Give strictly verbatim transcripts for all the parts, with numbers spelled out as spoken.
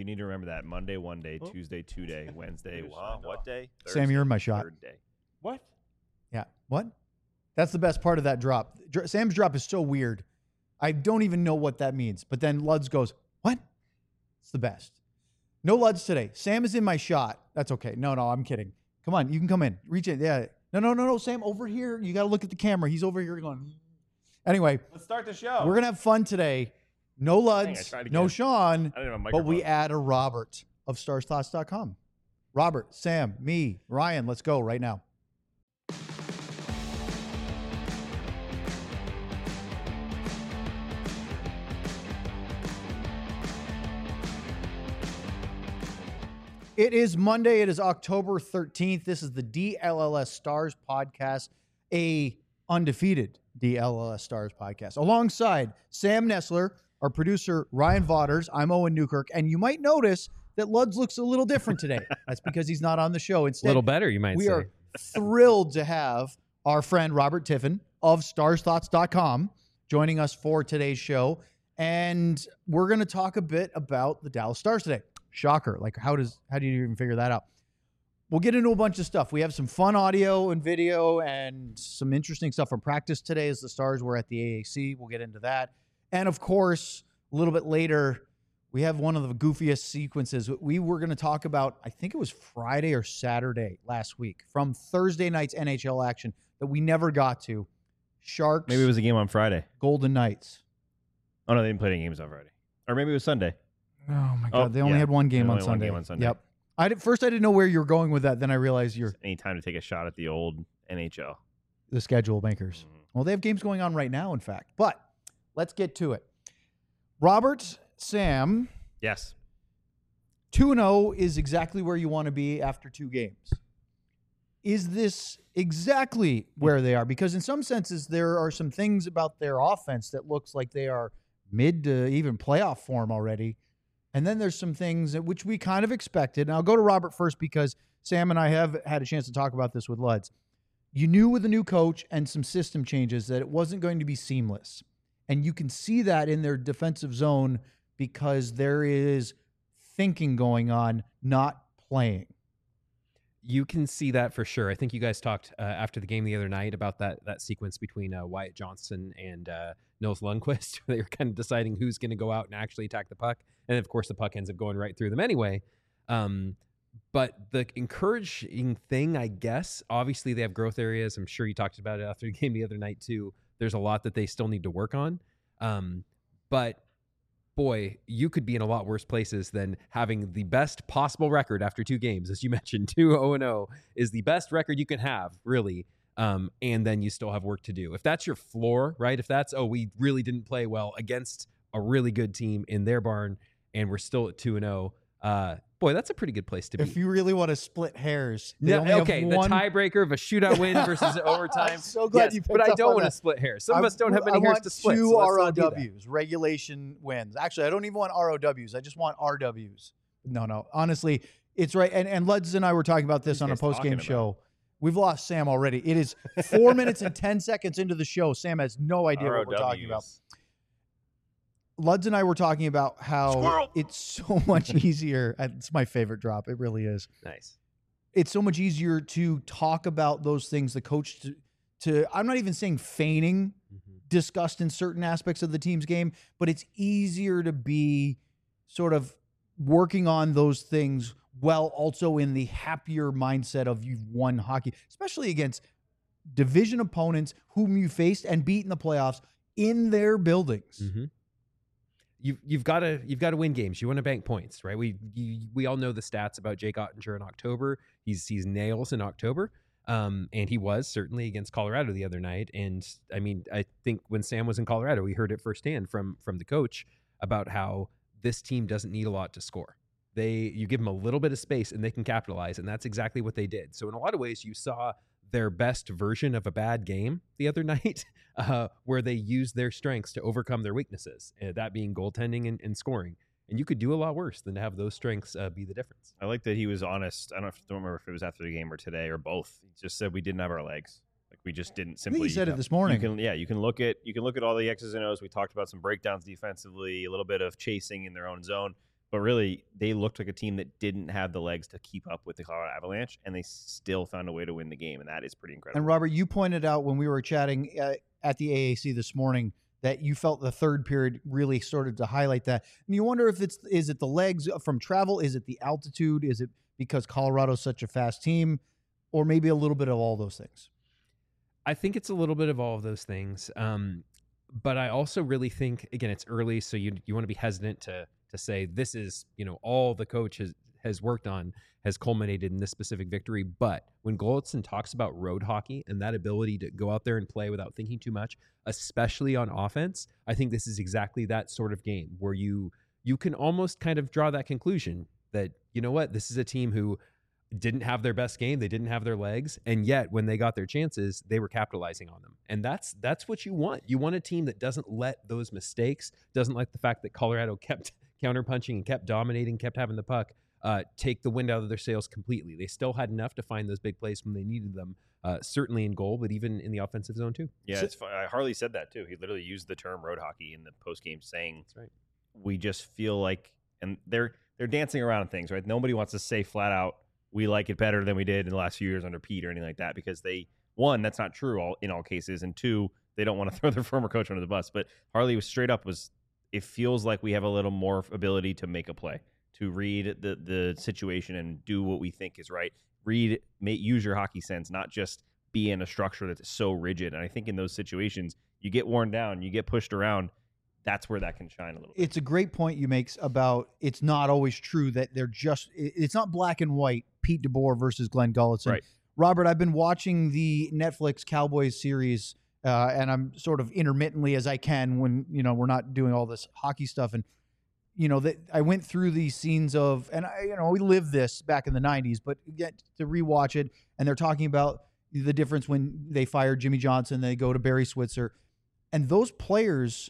You need to remember that. Monday, one day. Oh. Tuesday, two day. Wednesday, wow. What day? Thursday, Sam, you're in my shot. Third day. What? Yeah. What? That's the best part of that drop. Dr- Sam's drop is so weird. I don't even know what that means. But then Luds goes, what? It's the best. No Luds today. Sam is in my shot. That's okay. No, no, I'm kidding. Come on. You can come in. Reach in. Yeah. No, no, no, no. Sam, over here. You got to look at the camera. He's over here going. Anyway. Let's start the show. We're going to have fun today. No Luds. Dang, no Sean. But we phone. add a Robert of stars thoughts dot com. Robert, Sam, me, Ryan. Let's go right now. It is Monday. It is October thirteenth. This is the D L L S Stars podcast, a undefeated D L L S Stars podcast. Alongside Sam Nestler, our producer, Ryan Vaughters, I'm Owen Newkirk, and you might notice that Luds looks a little different today. That's because he's not on the show. Instead, a little better, you might we say. We are thrilled to have our friend Robert Tiffin of stars thoughts dot com joining us for today's show, and we're going to talk a bit about the Dallas Stars today. Shocker. Like, how does how do you even figure that out? We'll get into a bunch of stuff. We have some fun audio and video and some interesting stuff from practice today as the Stars were at the A A C. We'll get into that. And, of course, a little bit later, we have one of the goofiest sequences. We were going to talk about, I think it was Friday or Saturday last week, from Thursday night's N H L action that we never got to. Sharks. Maybe it was a game on Friday. Golden Knights. Oh, no, they didn't play any games on Friday. Or maybe it was Sunday. Oh, my God. Oh, they only yeah. had one game, only on one Sunday. game on Sunday. Yep. I did, first, I didn't know where you were going with that. Then I realized you're any time to take a shot at the old N H L. The schedule makers. Mm-hmm. Well, they have games going on right now, in fact. But let's get to it. Robert, Sam. Yes. two and oh is exactly where you want to be after two games. Is this exactly where they are? Because in some senses, there are some things about their offense that looks like they are mid to even playoff form already. And then there's some things that, which we kind of expected. And I'll go to Robert first because Sam and I have had a chance to talk about this with Luds. You knew with a new coach and some system changes that it wasn't going to be seamless. And you can see that in their defensive zone because there is thinking going on, not playing. You can see that for sure. I think you guys talked uh, after the game the other night about that that sequence between uh, Wyatt Johnston and uh, Nils Lundqvist. They were kind of deciding who's going to go out and actually attack the puck. And, of course, the puck ends up going right through them anyway. Um, but the encouraging thing, I guess, obviously they have growth areas. I'm sure you talked about it after the game the other night, too. There's a lot that they still need to work on. Um, but boy, you could be in a lot worse places than having the best possible record after two games. As you mentioned, two oh and oh is the best record you can have, really. Um, and then you still have work to do. If that's your floor, right? If that's, oh, we really didn't play well against a really good team in their barn and we're still at two and oh, uh, boy, that's a pretty good place to be. If you really want to split hairs. They No, only okay, have the one... tiebreaker of a shootout win versus overtime. I'm so glad yes, you picked but I up don't on want to that. split hairs. Some I, of us don't have many I hairs want to split. two so let's R O not do that. Ws, regulation wins. Actually, I don't even want R O Ws. I just want R Ws. No, no. Honestly, it's right. And, and Luds and I were talking about this What are on a you guys post-game talking show. We've lost Sam already. It is four minutes and ten seconds into the show. Sam has no idea what we're talking about. Luds and I were talking about how Squirrel. it's so much easier. It's my favorite drop. It really is. Nice. It's so much easier to talk about those things. The coach to, to I'm not even saying feigning Mm-hmm. disgust in certain aspects of the team's game, but it's easier to be sort of working on those things while also in the happier mindset of you've won hockey, especially against division opponents whom you faced and beat in the playoffs in their buildings. Mm-hmm. You've you've got to you've got to win games. You want to bank points, right? We you, we all know the stats about Jake Ottinger in October. He's he's nails in October, um, and he was certainly against Colorado the other night. And I mean, I think when Sam was in Colorado, we heard it firsthand from from the coach about how this team doesn't need a lot to score. They you give them a little bit of space and they can capitalize, and that's exactly what they did. So in a lot of ways, you saw their best version of a bad game the other night, uh, where they used their strengths to overcome their weaknesses, uh, that being goaltending and, and scoring. And you could do a lot worse than to have those strengths uh, be the difference. I like that he was honest. I don't, know if, don't remember if it was after the game or today or both. He just said we didn't have our legs. Like we just didn't I simply. think he said you it this morning. You can, yeah, you can look at you can look at all the X's and O's. We talked about some breakdowns defensively, a little bit of chasing in their own zone. But really, they looked like a team that didn't have the legs to keep up with the Colorado Avalanche, and they still found a way to win the game, and that is pretty incredible. And Robert, you pointed out when we were chatting uh, at the A A C this morning that you felt the third period really started to highlight that. And you wonder if it's is it the legs from travel, is it the altitude, is it because Colorado's such a fast team, or maybe a little bit of all those things? I think it's a little bit of all of those things. Um, but I also really think, again, it's early, so you you want to be hesitant to to say this is, you know, all the coach has, has worked on has culminated in this specific victory. But when Golitzson talks about road hockey and that ability to go out there and play without thinking too much, especially on offense, I think this is exactly that sort of game where you you can almost kind of draw that conclusion that, you know what, this is a team who didn't have their best game, they didn't have their legs, and yet when they got their chances, they were capitalizing on them. And that's that's what you want. You want a team that doesn't let those mistakes, doesn't like the fact that Colorado kept counterpunching and kept dominating, kept having the puck, uh, take the wind out of their sails completely. They still had enough to find those big plays when they needed them, uh, certainly in goal, but even in the offensive zone too. Yeah, So- it's fun. Harley said that too. He literally used the term road hockey in the post game, saying, That's right. "We just feel like," and they're they're dancing around things, right? Nobody wants to say flat out, "We like it better than we did in the last few years under Pete" or anything like that, because they, one, that's not true all in all cases, and two, they don't want to throw their former coach under the bus. But Harley was straight up was, it feels like we have a little more ability to make a play, to read the the situation and do what we think is right. Read, may, use your hockey sense, not just be in a structure that's so rigid. And I think in those situations, you get worn down, you get pushed around. That's where that can shine a little bit. It's a great point you make about it's not always true that they're just it- it's not black and white. Pete DeBoer versus Glenn Golitzson. Right. Robert, I've been watching the Netflix Cowboys series, uh, and I'm sort of intermittently as I can when you know we're not doing all this hockey stuff. And you know that I went through these scenes of, and I, you know we lived this back in the nineties, but get to rewatch it, and they're talking about the difference when they fired Jimmy Johnson, they go to Barry Switzer, and those players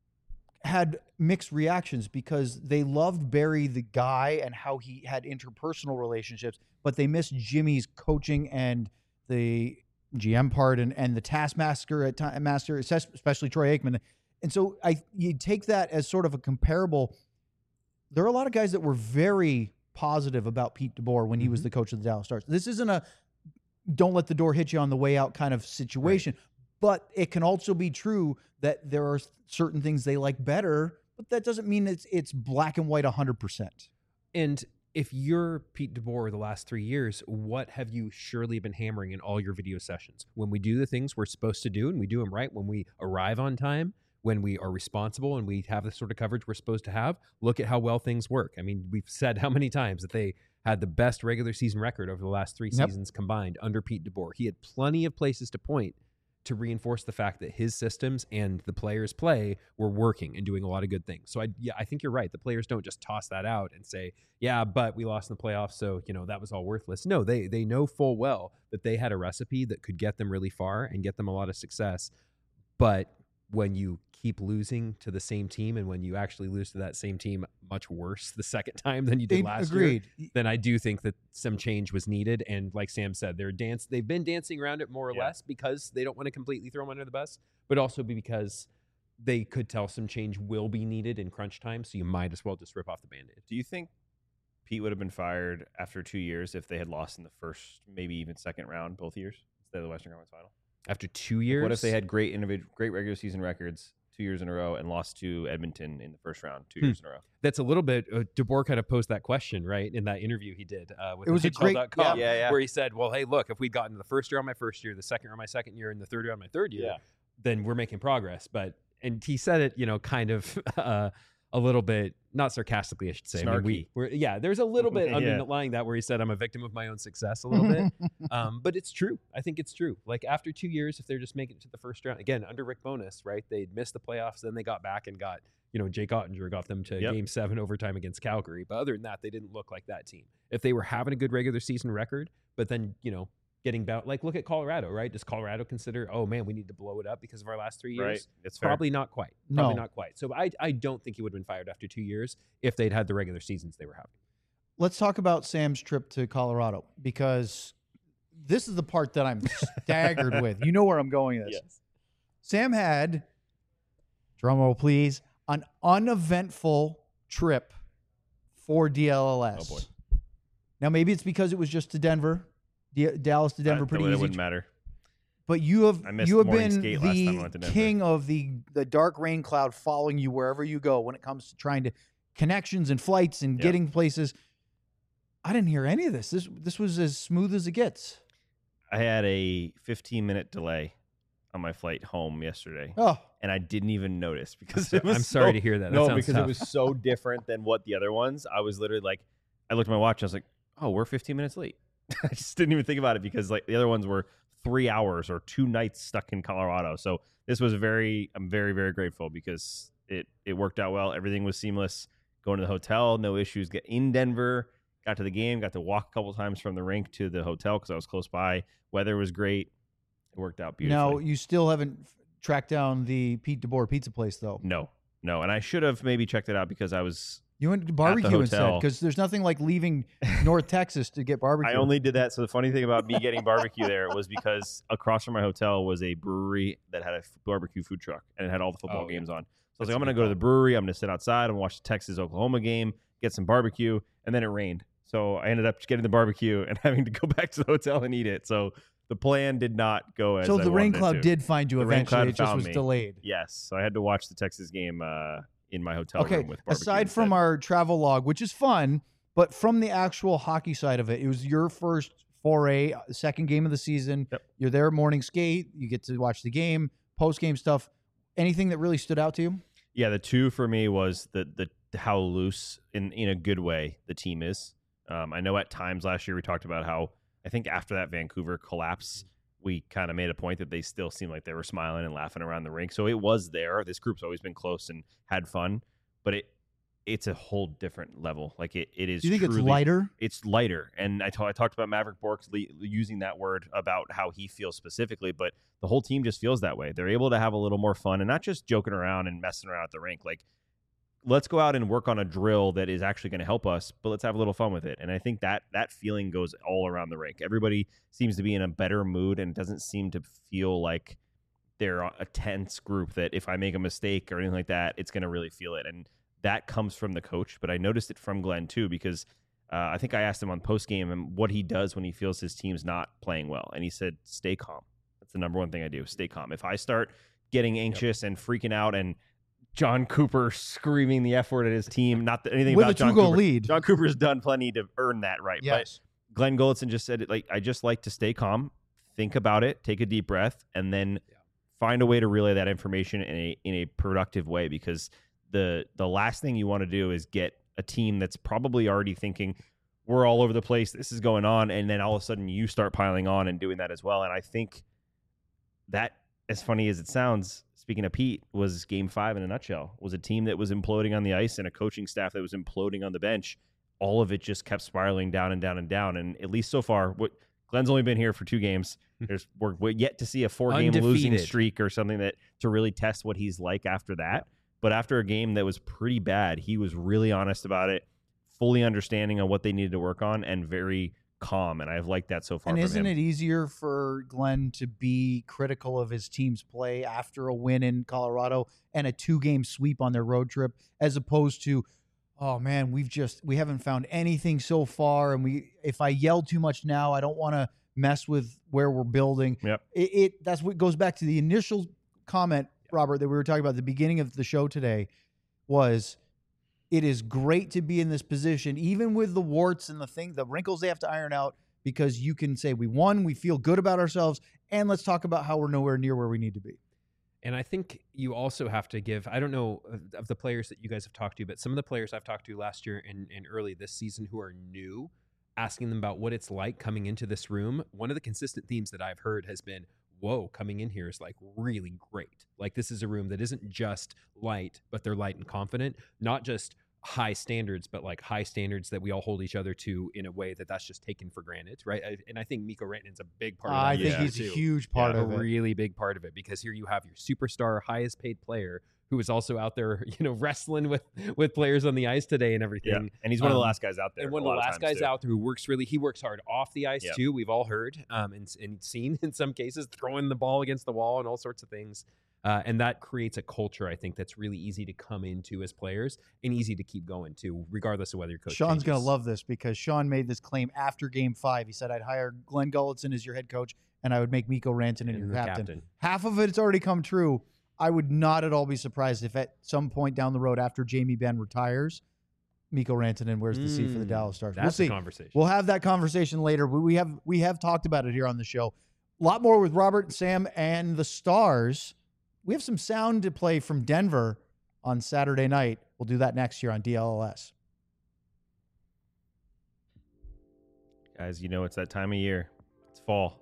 had mixed reactions because they loved Barry the guy and how he had interpersonal relationships, but they missed Jimmy's coaching and the G M part and, and the taskmaster at time master, especially Troy Aikman. And so I you take that as sort of a comparable. There are a lot of guys that were very positive about Pete DeBoer when he was Mhm. the coach of the Dallas Stars. This isn't a don't let the door hit you on the way out kind of situation. But it can also be true that there are certain things they like better, but that doesn't mean it's it's black and white one hundred percent. And if you're Pete DeBoer the last three years, what have you surely been hammering in all your video sessions? When we do the things we're supposed to do and we do them right, when we arrive on time, when we are responsible and we have the sort of coverage we're supposed to have, look at how well things work. I mean, we've said how many times that they had the best regular season record over the last three Yep. seasons combined under Pete DeBoer. He had plenty of places to point to reinforce the fact that his systems and the players' play were working and doing a lot of good things. So I, yeah, I think you're right. The players don't just toss that out and say, yeah, but we lost in the playoffs, so you know that was all worthless. No, they they know full well that they had a recipe that could get them really far and get them a lot of success. But when you keep losing to the same team and when you actually lose to that same team much worse the second time than you did last Agreed. year, then I do think that some change was needed. And like Sam said, they're dance they've been dancing around it more or Yeah. less because they don't want to completely throw them under the bus, but also because they could tell some change will be needed in crunch time. So you might as well just rip off the Band-Aid. Do you think Pete would have been fired after two years if they had lost in the first, maybe even second round both years instead of the Western Conference Final? After two years, What if they had great individual, great regular season records two years in a row and lost to Edmonton in the first round two Hmm. years in a row? That's a little bit. Uh, DeBoer kind of posed that question, right, in that interview he did uh, with It was a N H L great- dot com, yeah, yeah. where he said, "Well, hey, look, if we'd gotten the first year on my first year, the second year on my second year, and the third year on my third year, Yeah. then we're making progress." But and he said it, you know, kind of uh, a little bit, not sarcastically, I should say. I mean, we, Snarky. we're, yeah, there's a little bit Yeah. underlying that where he said, "I'm a victim of my own success," a little bit. Um, but it's true. I think it's true. Like after two years, if they're just making it to the first round again under Rick Bowness, right? They'd missed the playoffs, then they got back and got, you know, Jake Ottinger got them to Yep. game seven overtime against Calgary. But other than that, they didn't look like that team. If they were having a good regular season record, but then, you know, getting bound, like look at Colorado, right? Does Colorado consider, oh man, we need to blow it up because of our last three years? Right. It's fair. Probably not quite. Probably No. not quite. So I, I don't think he would have been fired after two years if they'd had the regular seasons they were having. Let's talk about Sam's trip to Colorado because this is the part that I'm staggered with. You know where I'm going with this. Yes. Sam had, drumroll please, an uneventful trip for D L L S. Oh, boy. Now, maybe it's because it was just to Denver, D- Dallas to Denver, Uh, pretty it easy. wouldn't matter. But you have I missed you have morning been skate last time I the went to Denver. king of the the dark rain cloud following you wherever you go when it comes to trying to connections and flights and Yep. getting places. I didn't hear any of this. This this was as smooth as it gets. I had a fifteen minute delay on my flight home yesterday, Oh, and I didn't even notice because So- it was I'm sorry so- to hear that. That no, sounds because tough. it was so different than what the other ones. I was literally like, I looked at my watch. And I was like, oh, we're fifteen minutes late. I just didn't even think about it because like the other ones were three hours or two nights stuck in Colorado. So this was very, I'm very, very grateful because it it worked out well. Everything was seamless. Going to the hotel, no issues. Get in Denver, got to the game, got to walk a couple times from the rink to the hotel because I was close by. Weather was great. It worked out beautifully. now you still haven't f- tracked down the Pete DeBoer pizza place though. No, no, and I should have maybe checked it out because I was. You went to barbecue instead hotel. because there's nothing like leaving North Texas to get barbecue. I only did that. So the funny thing about me getting barbecue there was because across from my hotel was a brewery that had a f- barbecue food truck and it had all the football Oh, yeah. games on. So I was That's like, a I'm going to good go to call. the brewery. I'm going to sit outside. I'm going to watch the Texas Oklahoma game, get some barbecue, and then it rained. So I ended up getting the barbecue and having to go back to the hotel and eat it. So the plan did not go as so I the rain wanted it cloud to. did find you The rain eventually. cloud It just found was me. delayed. Yes. So I had to watch the Texas game uh, in my hotel Okay, room with barbecue. aside from instead. our travel log, which is fun, but from the actual hockey side of it, it was your first foray, uh, second game of the season. Yep. You're there morning skate. You get to watch the game, post game stuff. Anything that really stood out to you? Yeah, the two for me was the the how loose in in a good way the team is. Um, I know at times last year we talked about how I think after that Vancouver collapse, we kind of made a point that they still seemed like they were smiling and laughing around the rink. So it was there. This group's always been close and had fun, but it it's a whole different level. Like it it is. Do you think it's truly- lighter? It's lighter, and I, ta- I talked about Maverick Borks le- using that word about how he feels specifically, but the whole team just feels that way. They're able to have a little more fun and not just joking around and messing around at the rink. Like, let's go out and work on a drill that is actually going to help us, but let's have a little fun with it. And I think that that feeling goes all around the rink. Everybody seems to be in a better mood, and it doesn't seem to feel like they're a tense group that if I make a mistake or anything like that, it's going to really feel it. And that comes from the coach, but I noticed it from Glenn too, because uh, I think I asked him on post game and what he does when he feels his team's not playing well, and he said, "Stay calm." That's the number one thing I do. Stay calm. If I start getting anxious yep. and freaking out, and John Cooper screaming the F word at his team, not that anything With about a John two-goal Cooper. lead. John Cooper's done plenty to earn that right. Yes. But Glenn Golitzin just said it like, I just like to stay calm, think about it, take a deep breath, and then yeah. find a way to relay that information in a in a productive way, because the the last thing you want to do is get a team that's probably already thinking we're all over the place, this is going on, and then all of a sudden you start piling on and doing that as well. And I think that, as funny as it sounds, speaking of Pete, was game five in a nutshell. It was a team that was imploding on the ice and a coaching staff that was imploding on the bench. All of it just kept spiraling down and down and down. And at least so far, what Glenn's only been here for two games. There's we're, we're yet to see a four-game losing Undefeated. streak or something that to really test what he's like after that. Yeah. But after a game that was pretty bad, he was really honest about it, fully understanding on what they needed to work on, and very calm. And I've liked that so far. And from isn't him. it easier for Glenn to be critical of his team's play after a win in Colorado and a two-game sweep on their road trip, as opposed to, oh man, we've just we haven't found anything so far, and we if I yell too much now, I don't want to mess with where we're building. Yep. It, it that's what goes back to the initial comment, Robert, that we were talking about at the beginning of the show today, was it is great to be in this position, even with the warts and the thing, the wrinkles they have to iron out, because you can say we won, we feel good about ourselves, and let's talk about how we're nowhere near where we need to be. And I think you also have to give, I don't know of the players that you guys have talked to, but some of the players I've talked to last year and, and early this season who are new, asking them about what it's like coming into this room. One of the consistent themes that I've heard has been, whoa, coming in here is like really great. Like this is a room that isn't just light, but they're light and confident, not just high standards, but like high standards that we all hold each other to in a way that that's just taken for granted, right? I, and I think Mikko Rantanen's a big part of that. I think yeah. he's too. a huge part yeah, of a it. really big part of it, because here you have your superstar, highest paid player who is also out there, you know, wrestling with with players on the ice today and everything. Yeah. And he's one of the Um, last guys out there. And one a of the lot last times, guys too. out there who works really, he works hard off the ice Yep. too. We've all heard um, and, and seen in some cases throwing the ball against the wall and all sorts of things. Uh, and that creates a culture, I think, that's really easy to come into as players and easy to keep going to, regardless of whether your coach Sean's going to changes. love this because Sean made this claim after game five. He said, I'd hire Glenn Gulletson as your head coach, and I would make Mikko Rantanen your And the captain. captain. Half of it's already come true. I would not at all be surprised if at some point down the road after Jamie Benn retires, Mikko Rantanen wears the seat for the Mm, Dallas Stars. That's We'll a see. conversation. We'll have that conversation later. We we have we have talked about it here on the show. A lot more with Robert, Sam, and the Stars. We have some sound to play from Denver on Saturday night. We'll do that next year on D L L S. Guys, you know it's that time of year. It's fall.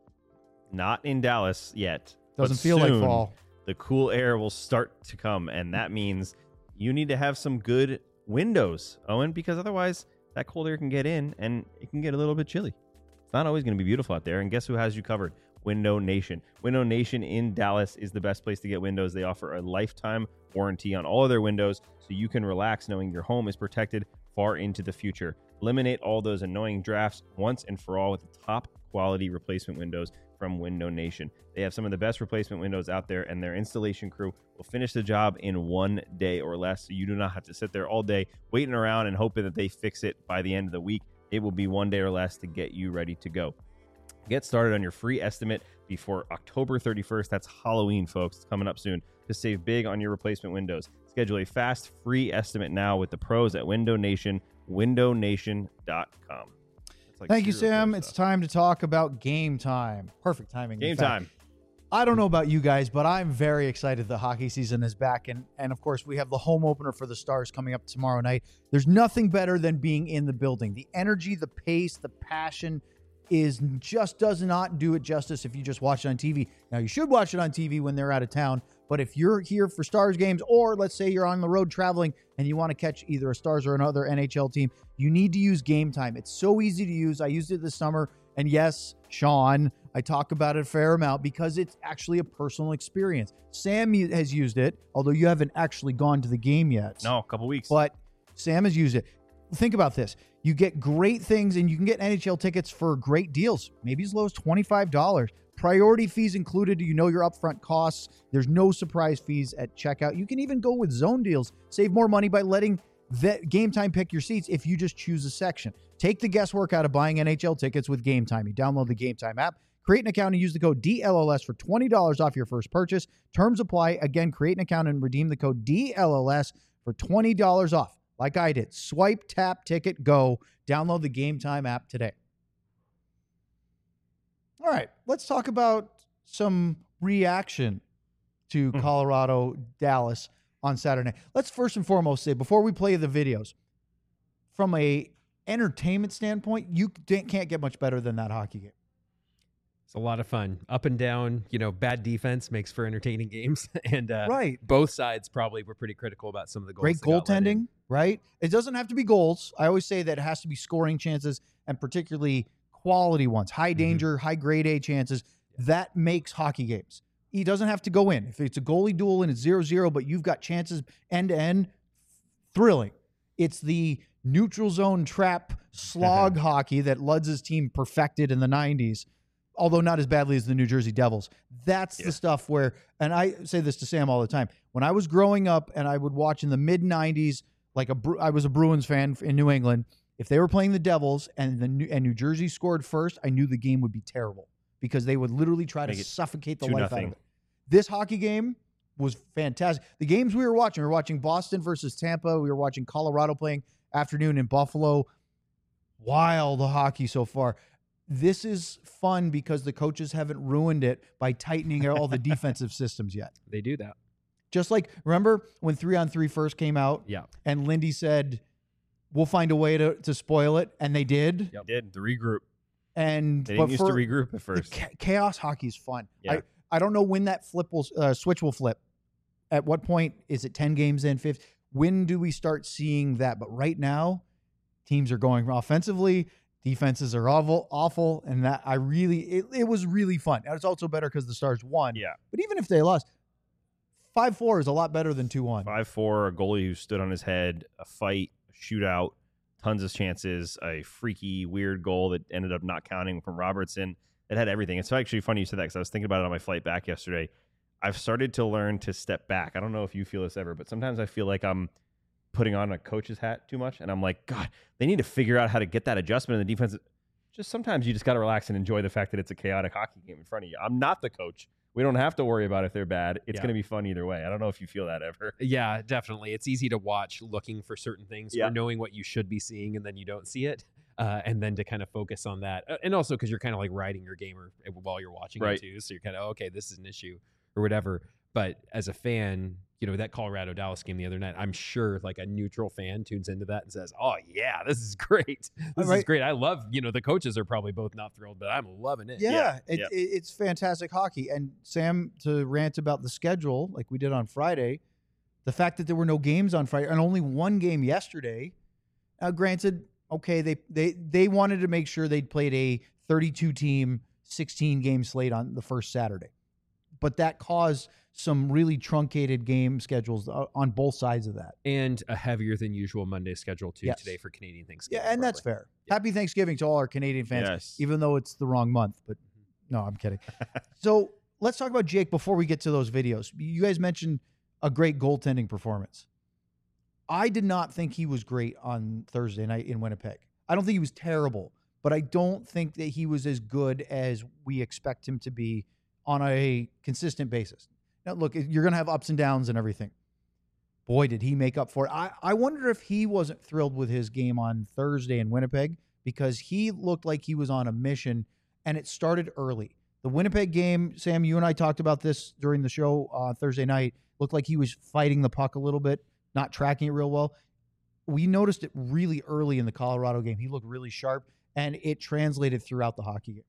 Not in Dallas yet. Doesn't but feel like soon, fall. The cool air will start to come, and that means you need to have some good windows, Owen, because otherwise that cold air can get in and it can get a little bit chilly. It's not always going to be beautiful out there, and guess who has you covered? Window Nation. Window Nation in Dallas is the best place to get windows. They offer a lifetime warranty on all of their windows, so you can relax knowing your home is protected far into the future. Eliminate all those annoying drafts once and for all with top quality replacement windows from Window Nation. They have some of the best replacement windows out there, and their installation crew will finish the job in one day or less, so you do not have to sit there all day waiting around and hoping that they fix it by the end of the week. It will be one day or less to get you ready to go. Get started on your free estimate before October thirty-first. That's Halloween, folks. It's coming up soon to save big on your replacement windows. Schedule a fast, free estimate now with the pros at Window Nation, window nation dot com. Like Thank you, serial Sam. killer It's stuff. time to talk about game time. Perfect timing. in Game fact. time. I don't know about you guys, but I'm very excited the hockey season is back. And, and of course, we have the home opener for the Stars coming up tomorrow night. There's nothing better than being in the building. The energy, the pace, the passion is just does not do it justice if you just watch it on T V. Now, you should watch it on T V when they're out of town. But if you're here for Stars games, or let's say you're on the road traveling and you want to catch either a Stars or another N H L team, you need to use Game Time. It's so easy to use. I used it this summer. And yes, Sean, I talk about it a fair amount because it's actually a personal experience. Sam has used it, although you haven't actually gone to the game yet. No, a couple weeks. But Sam has used it. Think about this. You get great things, and you can get N H L tickets for great deals, maybe as low as twenty-five dollars. Priority fees included. You know your upfront costs. There's no surprise fees at checkout. You can even go with zone deals. Save more money by letting the Game Time pick your seats if you just choose a section. Take the guesswork out of buying N H L tickets with Game Time. You download the Game Time app, create an account, and use the code D L L S for twenty dollars off your first purchase. Terms apply. Again, create an account and redeem the code D L L S for twenty dollars off. Like I did. Swipe, tap, ticket, go. Download the Game Time app today. All right, let's talk about some reaction to Mhm. Colorado, Dallas on Saturday. Let's first and foremost say, before we play the videos, from a entertainment standpoint, you can't get much better than that hockey game. It's a lot of fun. Up and down, you know, bad defense makes for entertaining games. and uh, Right. both sides probably were pretty critical about some of the goals. Great that got let in. goaltending, right? It doesn't have to be goals. I always say that it has to be scoring chances, and particularly quality ones, high danger, high grade A chances. That makes hockey games. He doesn't have to go in. If it's a goalie duel and it's zero zero, but you've got chances end to end, thrilling. It's the neutral zone trap slog hockey that Ludz's team perfected in the nineties, although not as badly as the New Jersey Devils. That's Yeah. the stuff where, and I say this to Sam all the time, when I was growing up and I would watch in the mid nineties, like a, I was a Bruins fan in New England. If they were playing the Devils and the New, and New Jersey scored first, I knew the game would be terrible because they would literally try Make to it suffocate the two life out nothing. of it. This hockey game was fantastic. The games we were watching, we were watching Boston versus Tampa. We were watching Colorado playing afternoon in Buffalo. Wild hockey so far. This is fun because the coaches haven't ruined it by tightening all the defensive systems yet. They do that. Just like, remember when three on three first came out Yeah. and Lindy said, we'll find a way to, to spoil it. And they did. Yep. Did the regroup. And They but didn't used for- to regroup at the first. cha- chaos hockey is fun. Yeah. I, I don't know when that flip will uh, switch will flip. At what point is it ten games in, fifth? When do we start seeing that? But right now, teams are going offensively, defenses are awful, awful, and that I really it, it was really fun. And it's also better because the Stars won. Yeah. But even if they lost, five four is a lot better than two one. five four, a goalie who stood on his head, a fight, a shootout, tons of chances, a freaky, weird goal that ended up not counting from Robertson. It had everything. It's actually funny you said that because I was thinking about it on my flight back yesterday. I've started to learn to step back. I don't know if you feel this ever, but sometimes I feel like I'm putting on a coach's hat too much, and I'm like, God, they need to figure out how to get that adjustment in the defense. Just sometimes you just got to relax and enjoy the fact that it's a chaotic hockey game in front of you. I'm not the coach. We don't have to worry about if they're bad. It's Yeah. going to be fun either way. I don't know if you feel that ever. Yeah, definitely. It's easy to watch looking for certain things Yeah. or knowing what you should be seeing and then you don't see it. Uh, and then to kind of focus on that. Uh, and also because you're kind of like riding your gamer while you're watching Right. it too. So you're kind of, okay, this is an issue or whatever. But as a fan, you know, that Colorado Dallas game the other night, I'm sure like a neutral fan tunes into that and says, oh, yeah, this is great. This Right. is great. I love, you know, the coaches are probably both not thrilled, but I'm loving it. Yeah, Yeah, it, yeah. It, it's fantastic hockey. And Sam, to rant about the schedule like we did on Friday, the fact that there were no games on Friday and only one game yesterday. Now, granted, okay, they they they wanted to make sure they'd played a thirty-two team, sixteen game slate on the first Saturday, but that caused some really truncated game schedules uh, on both sides of that. And a heavier than usual Monday schedule too Yes. today for Canadian Thanksgiving. Yeah, and that's probably. fair. Happy Thanksgiving to all our Canadian fans, Yes. even though it's the wrong month. But no, I'm kidding. So let's talk about Jake before we get to those videos. You guys mentioned a great goaltending performance. I did not think he was great on Thursday night in Winnipeg. I don't think he was terrible, but I don't think that he was as good as we expect him to be on a consistent basis. Now, look, you're going to have ups and downs and everything. Boy, did he make up for it. I, I wonder if he wasn't thrilled with his game on Thursday in Winnipeg because he looked like he was on a mission, and it started early. The Winnipeg game, Sam, you and I talked about this during the show uh, Thursday night, looked like he was fighting the puck a little bit, not tracking it real well. We noticed it really early in the Colorado game. He looked really sharp, and it translated throughout the hockey game.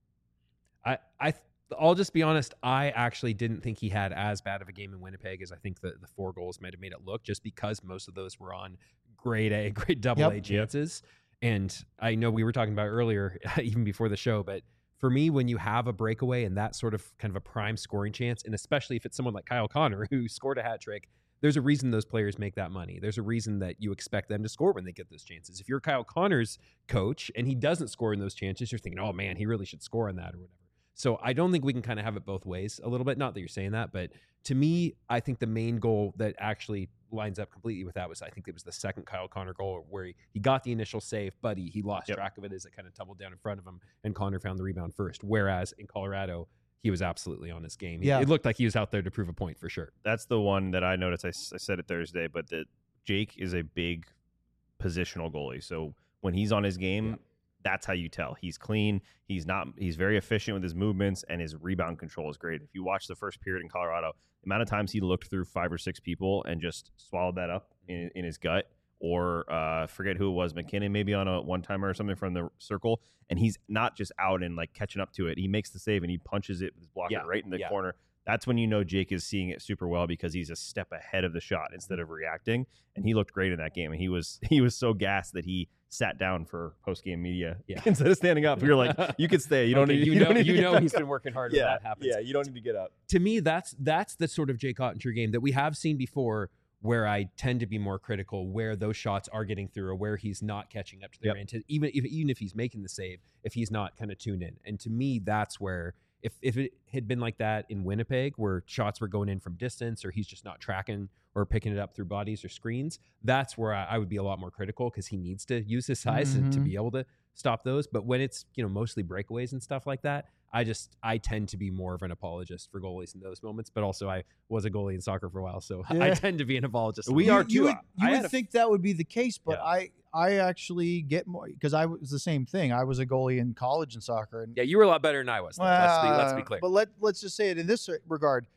I, I, I'll just be honest. I actually didn't think he had as bad of a game in Winnipeg as I think the, the four goals might have made it look, just because most of those were on grade A, grade double Yep. A chances. And I know we were talking about earlier, even before the show, but for me, when you have a breakaway and that sort of kind of a prime scoring chance, and especially if it's someone like Kyle Connor who scored a hat trick, there's a reason those players make that money. There's a reason that you expect them to score when they get those chances. If you're Kyle Connor's coach and he doesn't score in those chances, you're thinking, oh man, he really should score on that or whatever. So I don't think we can kind of have it both ways a little bit. Not that you're saying that, but to me, I think the main goal that actually lines up completely with that was, I think it was the second Kyle Connor goal where he, he got the initial save, but he, he lost Yep. track of it as it kind of tumbled down in front of him, and Connor found the rebound first. Whereas in Colorado, he was absolutely on his game. He- Yeah. It looked like he was out there to prove a point for sure. That's the one that I noticed. I, s- I said it Thursday, but that Jake is a big positional goalie. So when he's on his game, Yeah. that's how you tell he's clean. He's not. He's very efficient with his movements, and his rebound control is great. If you watch the first period in Colorado, the amount of times he looked through five or six people and just swallowed that up in, in his gut, or uh, forget who it was, McKinnon maybe on a one timer or something from the circle, and he's not just out and like catching up to it. He makes the save and he punches it with his blocker Yeah. right in the Yeah. corner. That's when you know Jake is seeing it super well because he's a step ahead of the shot instead of reacting. And he looked great in that game. And he was he was so gassed that he sat down for post game media Yeah. instead of standing up. You're like, you could stay. You don't Okay, need. you, You, know, don't need to you get know back he's up. been working hard Yeah, when that happens. yeah. You don't need to get up. To me, that's that's the sort of Jake Ottinger game that we have seen before, where I tend to be more critical, where those shots are getting through, or where he's not catching up to their Yep. intent, even if even if he's making the save, if he's not kind of tuned in. And to me, that's where if if it had been like that in Winnipeg, where shots were going in from distance, or he's just not tracking or picking it up through bodies or screens, that's where I, I would be a lot more critical because he needs to use his size and to Mhm. be able to stop those. But when it's, you know, mostly breakaways and stuff like that, I just I tend to be more of an apologist for goalies in those moments. But also I was a goalie in soccer for a while, so I Yeah. tend to be an apologist. We you, are You too. would, you I would had a- think that would be the case, but Yeah. I I actually get more because I was the same thing. I was a goalie in college in soccer, and Yeah, you were a lot better than I was. though. let's be let's be Well, clear. But let let's just say it in this regard.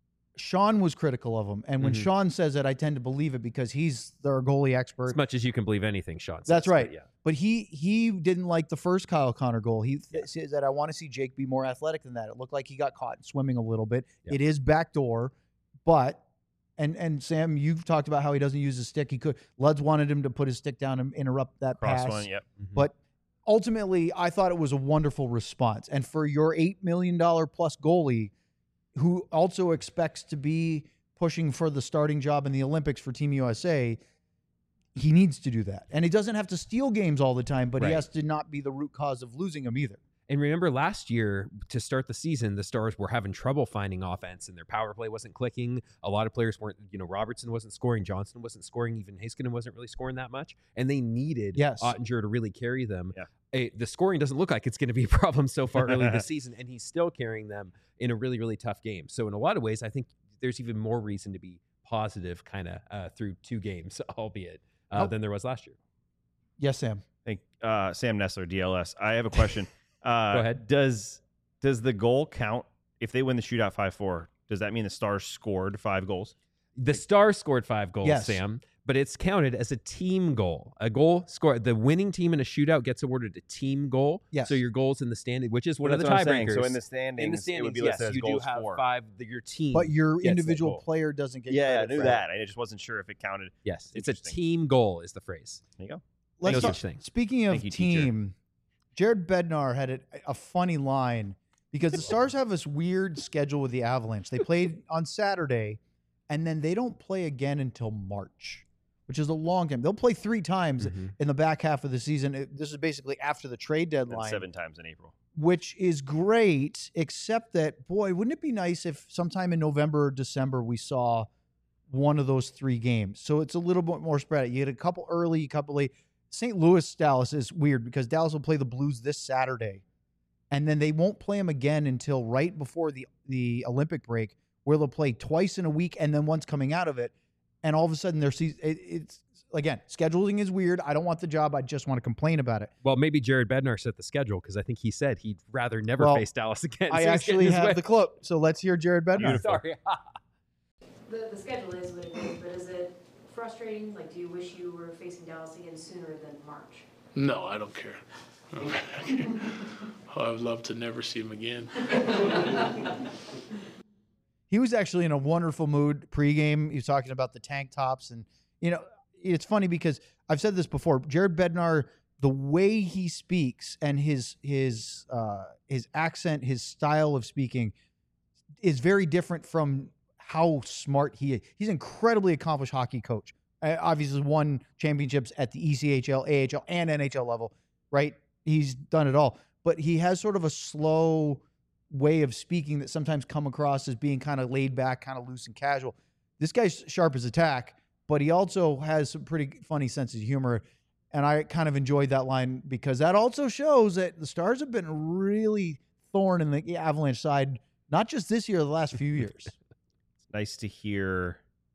Sean was critical of him, and when Mhm. Sean says it, I tend to believe it because he's their goalie expert. As much as you can believe anything, Sean. Says, That's but right. Yeah. But he he didn't like the first Kyle Connor goal. He th- says that I want to see Jake be more athletic than that. It looked like he got caught swimming a little bit. Yeah. It is backdoor, but and and Sam, you've talked about how he doesn't use his stick. He could. Luds wanted him to put his stick down and interrupt that Cross pass. one. Yep. Mhm. But ultimately, I thought it was a wonderful response. And for your eight million dollars plus goalie, who also expects to be pushing for the starting job in the Olympics for Team U S A, he needs to do that. And he doesn't have to steal games all the time, but Right. he has to not be the root cause of losing them either. And remember last year to start the season, the Stars were having trouble finding offense and their power play wasn't clicking. A lot of players weren't, you know, Robertson wasn't scoring, Johnson wasn't scoring, even Heiskanen wasn't really scoring that much. And they needed Yes. Ottinger to really carry them. Yeah. A, the scoring doesn't look like it's going to be a problem so far early this season, and he's still carrying them in a really, really tough game. So in a lot of ways, I think there's even more reason to be positive kind of uh, through two games, albeit, uh, Oh. than there was last year. Yes, Sam. Thank uh, Sam Nessler, D L S. I have a question. Uh, Go ahead. Does does the goal count if they win the shootout five four? Does that mean the Stars scored five goals? The Stars scored five goals, Yes. Sam, but it's counted as a team goal. A goal scored. The winning team in a shootout gets awarded a team goal. Yes. So your goals in the standing, which is one Well, of the that's what I'm saying. tiebreakers. So in the standings, in the it standings, would be yes, listed as you do goals have for. five. The, your team, But your gets that individual goal. player doesn't get Yeah, I credit knew for that. I just wasn't sure if it counted. Yes, it's a Interesting. team goal. Is the phrase. There you go. Let's No talk, such thing. Speaking of Thank you, teacher. team, Jared Bednar had a, a funny line because the Stars have this weird schedule with the Avalanche. They played on Saturday, and then they don't play again until March, which is a long time. They'll play three times Mhm. in the back half of the season. It- This is basically after the trade And deadline, seven times in April. which is great, except that, boy, wouldn't it be nice if sometime in November or December we saw one of those three games? So it's a little bit more spread out. You get a couple early, a couple late. Saint Louis, Dallas is weird because Dallas will play the Blues this Saturday, and then they won't play them again until right before the, the Olympic break, where they'll play twice in a week and then once coming out of it. And all of a sudden, their season, it, it's, again, scheduling is weird. I don't want the job. I just want to complain about it. Well, maybe Jared Bednar set the schedule because I think he said he'd rather never Well, face Dallas again. I So he's getting actually his have way. the clip, so let's hear Jared Bednar. Beautiful. Sorry. The, the schedule is what it is, but is it frustrating? Like, do you wish you were facing Dallas again sooner than March? No, I don't care. I would love to never see him again. He was actually in a wonderful mood pregame. He was talking about the tank tops. And, you know, it's funny because I've said this before. Jared Bednar, the way he speaks and his his uh, his accent, his style of speaking is very different from how smart he is. He's an incredibly accomplished hockey coach. Uh, obviously won championships at the E C H L, A H L, and N H L level, right? He's done it all. But he has sort of a slow way of speaking that sometimes come across as being kind of laid back, kind of loose and casual. This guy's sharp as a tack, but he also has some pretty funny sense of humor. And I kind of enjoyed that line because that also shows that the Stars have been really thorn in the Avalanche side, not just this year, the last few years. It's nice to hear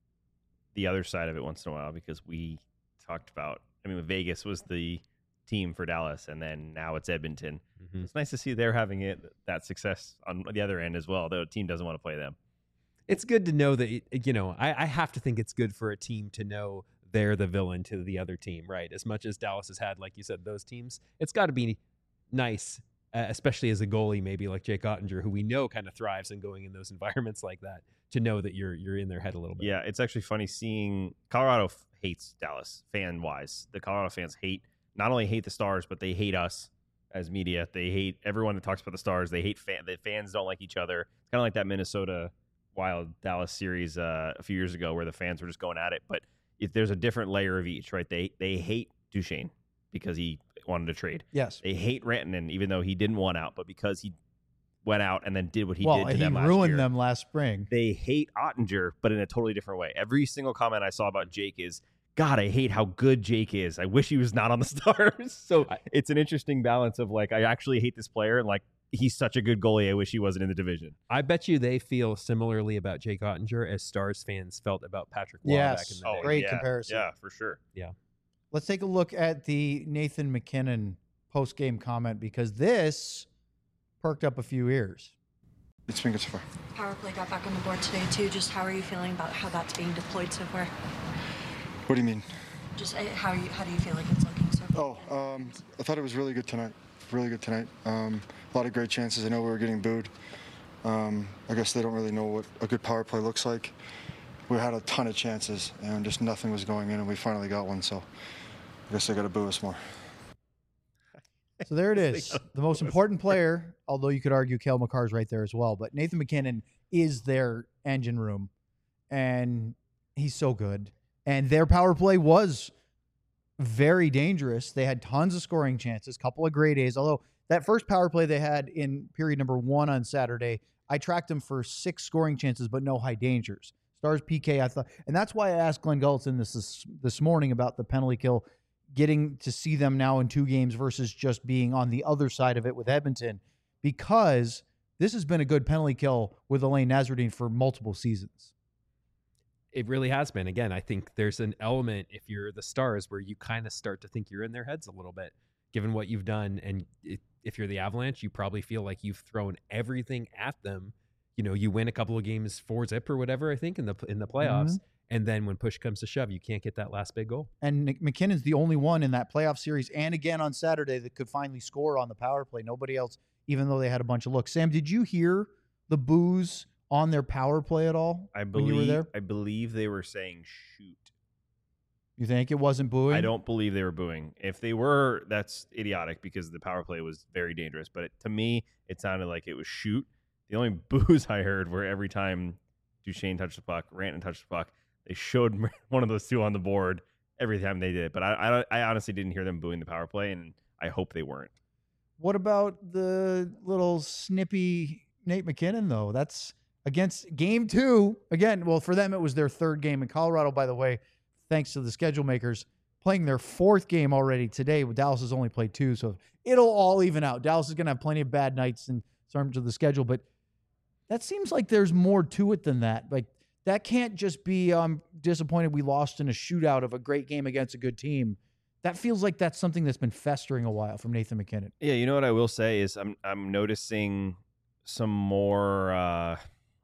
the other side of it once in a while because we talked about, I mean, Vegas was the team for Dallas, and then now it's Edmonton. Mhm. It's nice to see they're having it that success on the other end as well, though the team doesn't want to play them. It's good to know that, you know, I, I have to think it's good for a team to know they're the villain to the other team, right? As much as Dallas has had, like you said, those teams, it's got to be nice, uh, especially as a goalie, maybe like Jake Ottinger, who we know kind of thrives in going in those environments like that, to know that you're you're in their head a little bit. Yeah, it's actually funny seeing Colorado f- hates Dallas fan wise. The Colorado fans hate not only hate the Stars, but they hate us as media. They hate everyone that talks about the Stars. They hate fan. The fans don't like each other. Kind of like that Minnesota Wild Dallas series uh, a few years ago, where the fans were just going at it. But if there's a different layer of each, right? They they hate Duchesne because he wanted to trade. Yes. They hate Rantanen even though he didn't want out, but because he went out and then did what he well, did to and he them last ruined year. them last spring. They hate Ottinger, but in a totally different way. Every single comment I saw about Jake is, God, I hate how good Jake is. I wish he was not on the Stars. So it's an interesting balance of like, I actually hate this player, and like, he's such a good goalie. I wish he wasn't in the division. I bet you they feel similarly about Jake Ottinger as Stars fans felt about Patrick Waugh back Yes. in the Oh, day. great yeah, comparison. Yeah, for sure. Let's take a look at the Nathan McKinnon post-game comment because this perked up a few ears. It's been good so far. Power play got back on the board today too. Just how are you feeling about how that's being deployed so far? What do you mean? Just uh, how you how do you feel like it's looking so far? Oh, um, I thought it was really good tonight. Really good tonight. Um, a lot of great chances. I know we were getting booed. Um, I guess they don't really know what a good power play looks like. We had a ton of chances and just nothing was going in, and we finally got one. So I guess they got to boo us more. So there it is. The most important player, although you could argue Cale Makar's right there as well, but Nathan McKinnon is their engine room, and he's so good. And their power play was very dangerous. They had tons of scoring chances, couple of great A's, although that first power play they had in period number one on Saturday, I tracked them for six scoring chances, but no high dangers. Stars P K, I thought, and that's why I asked Glenn Gulletson this this, this morning about the penalty kill, getting to see them now in two games versus just being on the other side of it with Edmonton, because this has been a good penalty kill with Elaine Nasruddin for multiple seasons. It really has been. Again, I think there's an element, if you're the Stars, where you kind of start to think you're in their heads a little bit, given what you've done. And it, if you're the Avalanche, you probably feel like you've thrown everything at them. You know, you win a couple of games four zip or whatever, I think, in the in the playoffs. Mm-hmm. And then when push comes to shove, you can't get that last big goal. And McKinnon's the only one in that playoff series and again on Saturday that could finally score on the power play. Nobody else, even though they had a bunch of looks. Sam, did you hear the boos on their power play at all? I believe, when you were there? I believe they were saying shoot. You think it wasn't booing? I don't believe they were booing. If they were, that's idiotic because the power play was very dangerous. But it, to me, it sounded like it was shoot. The only boos I heard were every time Duchesne touched the puck, Rantanen touched the puck, they showed one of those two on the board every time they did it. But I, I, I honestly didn't hear them booing the power play, and I hope they weren't. What about the little snippy Nate MacKinnon, though? That's against game two. Again, well, for them, it was their third game in Colorado, by the way, thanks to the schedule makers, playing their fourth game already today. Dallas has only played two, so it'll all even out. Dallas is going to have plenty of bad nights in terms of the schedule, but that seems like there's more to it than that. Like, that can't just be, I'm disappointed we lost in a shootout of a great game against a good team. That feels like that's something that's been festering a while from Nathan MacKinnon. Yeah, you know what I will say is I'm I'm noticing some more uh,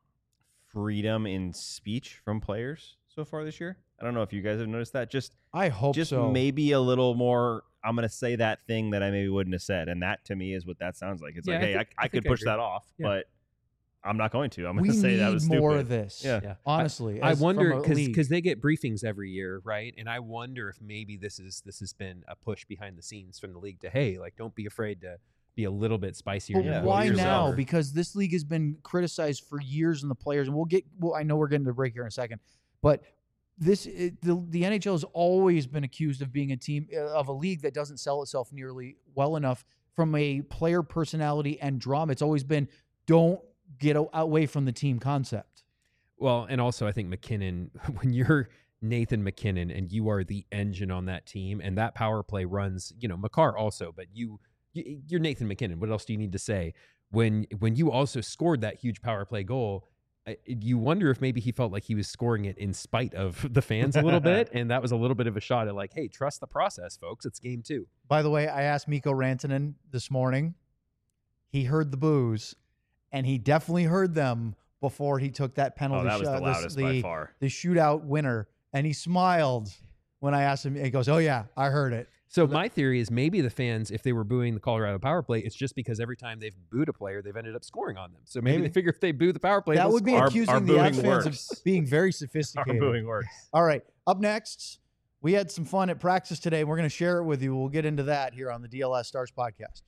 freedom in speech from players so far this year. I don't know if you guys have noticed that. Just I hope just so. maybe a little more. I'm going to say that thing that I maybe wouldn't have said, and that to me is what that sounds like. It's Yeah, like, I hey, think- I, I, I could think I push agree. that off, Yeah. but I'm not going to. I'm We going to say need that was more stupid. of this. Yeah. Yeah. Honestly, I as- wonder from a because league. because they get briefings every year, right? And I wonder if maybe this is this has been a push behind the scenes from the league to, hey, like, don't be afraid to be a little bit spicier. But in your Yeah, why voice or now? whatever. Because this league has been criticized for years, and the players, and we'll get. Well, I know we're getting to the break here in a second, but this it, the the N H L has always been accused of being a team uh, of a league that doesn't sell itself nearly well enough from a player personality and drama. It's always been don't get a- away from the team concept. Well, and also I think McKinnon, when you're Nathan MacKinnon and you are the engine on that team, and that power play runs, you know, Makar also, but you, you you're Nathan MacKinnon. What else do you need to say? When when you also scored that huge power play goal, I- you wonder if maybe he felt like he was scoring it in spite of the fans a little bit, and that was a little bit of a shot at like, hey, trust the process, folks. It's game two. By the way, I asked Mikko Rantanen this morning. He heard the boos, and he definitely heard them before he took that penalty Oh, that was shot. the loudest by far. The shootout winner, and he smiled when I asked him. He goes, "Oh yeah, I heard it." So my theory is maybe the fans, if they were booing the Colorado power play, it's just because every time they've booed a player, they've ended up scoring on them. So maybe, Maybe. they figure if they boo the power play, That they'll would be score. Our- accusing our the booing Avs fans works. of being very Our sophisticated. booing works. All right, up next, we had some fun at practice today. We're going to share it with you. We'll get into that here on the D L S Stars podcast.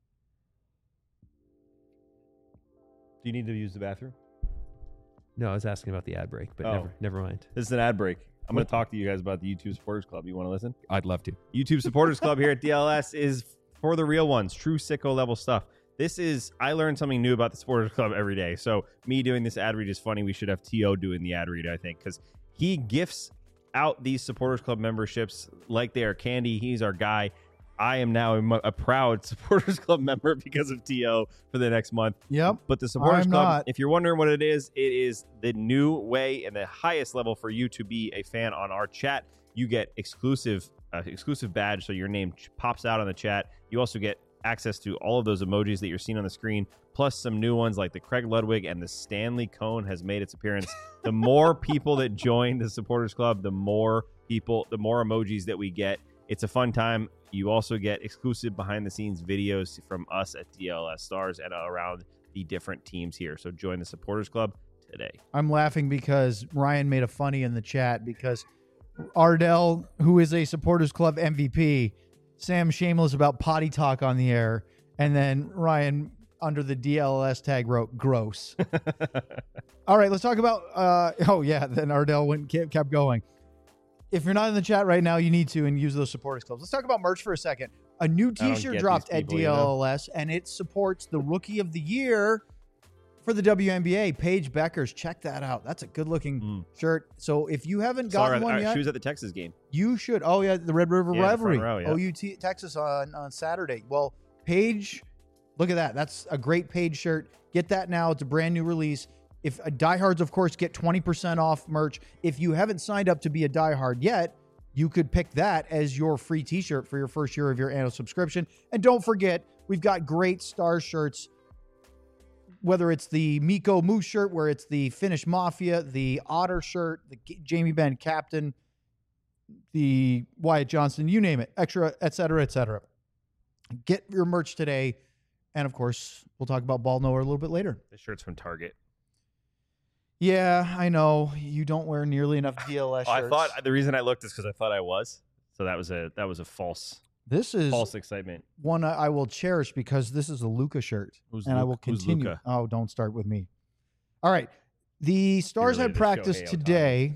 Do you need to use the bathroom? No, I was asking about the ad break, but Oh. never, never mind. This is an ad break. I'm going to talk to you guys about the YouTube Supporters Club. You want to listen? I'd love to. YouTube Supporters Club here at D L S is for the real ones, true sicko level stuff. This is, I learn something new about the Supporters Club every day. So me doing this ad read is funny. We should have T O doing the ad read, I think, because he gifts out these Supporters Club memberships like they are candy. He's our guy. I am now a, a proud Supporters Club member because of T O for the next month. Yep. But the Supporters I'm Club, not. if you're wondering what it is, it is the new way and the highest level for you to be a fan on our chat. You get exclusive uh, exclusive badge, so your name ch- pops out on the chat. You also get access to all of those emojis that you're seeing on the screen, plus some new ones like the Craig Ludwig and the Stanley Cone has made its appearance. The more people that join the Supporters Club, the more people, the more emojis that we get. It's a fun time. You also get exclusive behind-the-scenes videos from us at D L S Stars and around the different teams here. So join the Supporters Club today. I'm laughing because Ryan made a funny in the chat because Ardell, who is a Supporters Club M V P, Sam shameless about potty talk on the air, and then Ryan under the D L S tag wrote gross. All right, let's talk about uh oh yeah, then Ardell went kept, kept going. If you're not in the chat right now, you need to and use those Supporters Clubs. Let's talk about merch for a second. a new don't T-shirt get dropped these at people, you know? D L L S, and it supports the Rookie of the Year for the W N B A, Paige Beckers. Check that out. That's a good-looking Mm. shirt. So if you haven't Saw her gotten at- one uh, yet, She was at the Texas game. you should. Oh yeah, the Red River Yeah, the front Rivalry, row, yeah. O U T Texas on on Saturday. Well, Paige, look at that. That's a great Paige shirt. Get that now. It's a brand new release. If uh, diehards, of course, get twenty percent off merch. If you haven't signed up to be a diehard yet, you could pick that as your free T-shirt for your first year of your annual subscription. And don't forget, we've got great Star shirts. Whether it's the Miko Moose shirt, where it's the Finnish Mafia, the Otter shirt, the G- Jamie Benn Captain, the Wyatt Johnston, you name it, extra, et cetera, et cetera. Get your merch today. And of course, we'll talk about Ball Knower a little bit later. The shirt's from Target. Yeah, I know. You don't wear nearly enough D L S Oh, shirts. I thought the reason I looked is because I thought I was. So that was a that was a false this is false excitement. one I I will cherish because this is a Luca shirt. Who's and I Luka- will who's continue. Luka? Oh, don't start with me. All right. The Stars related had to practice Shohei Ohtani. today.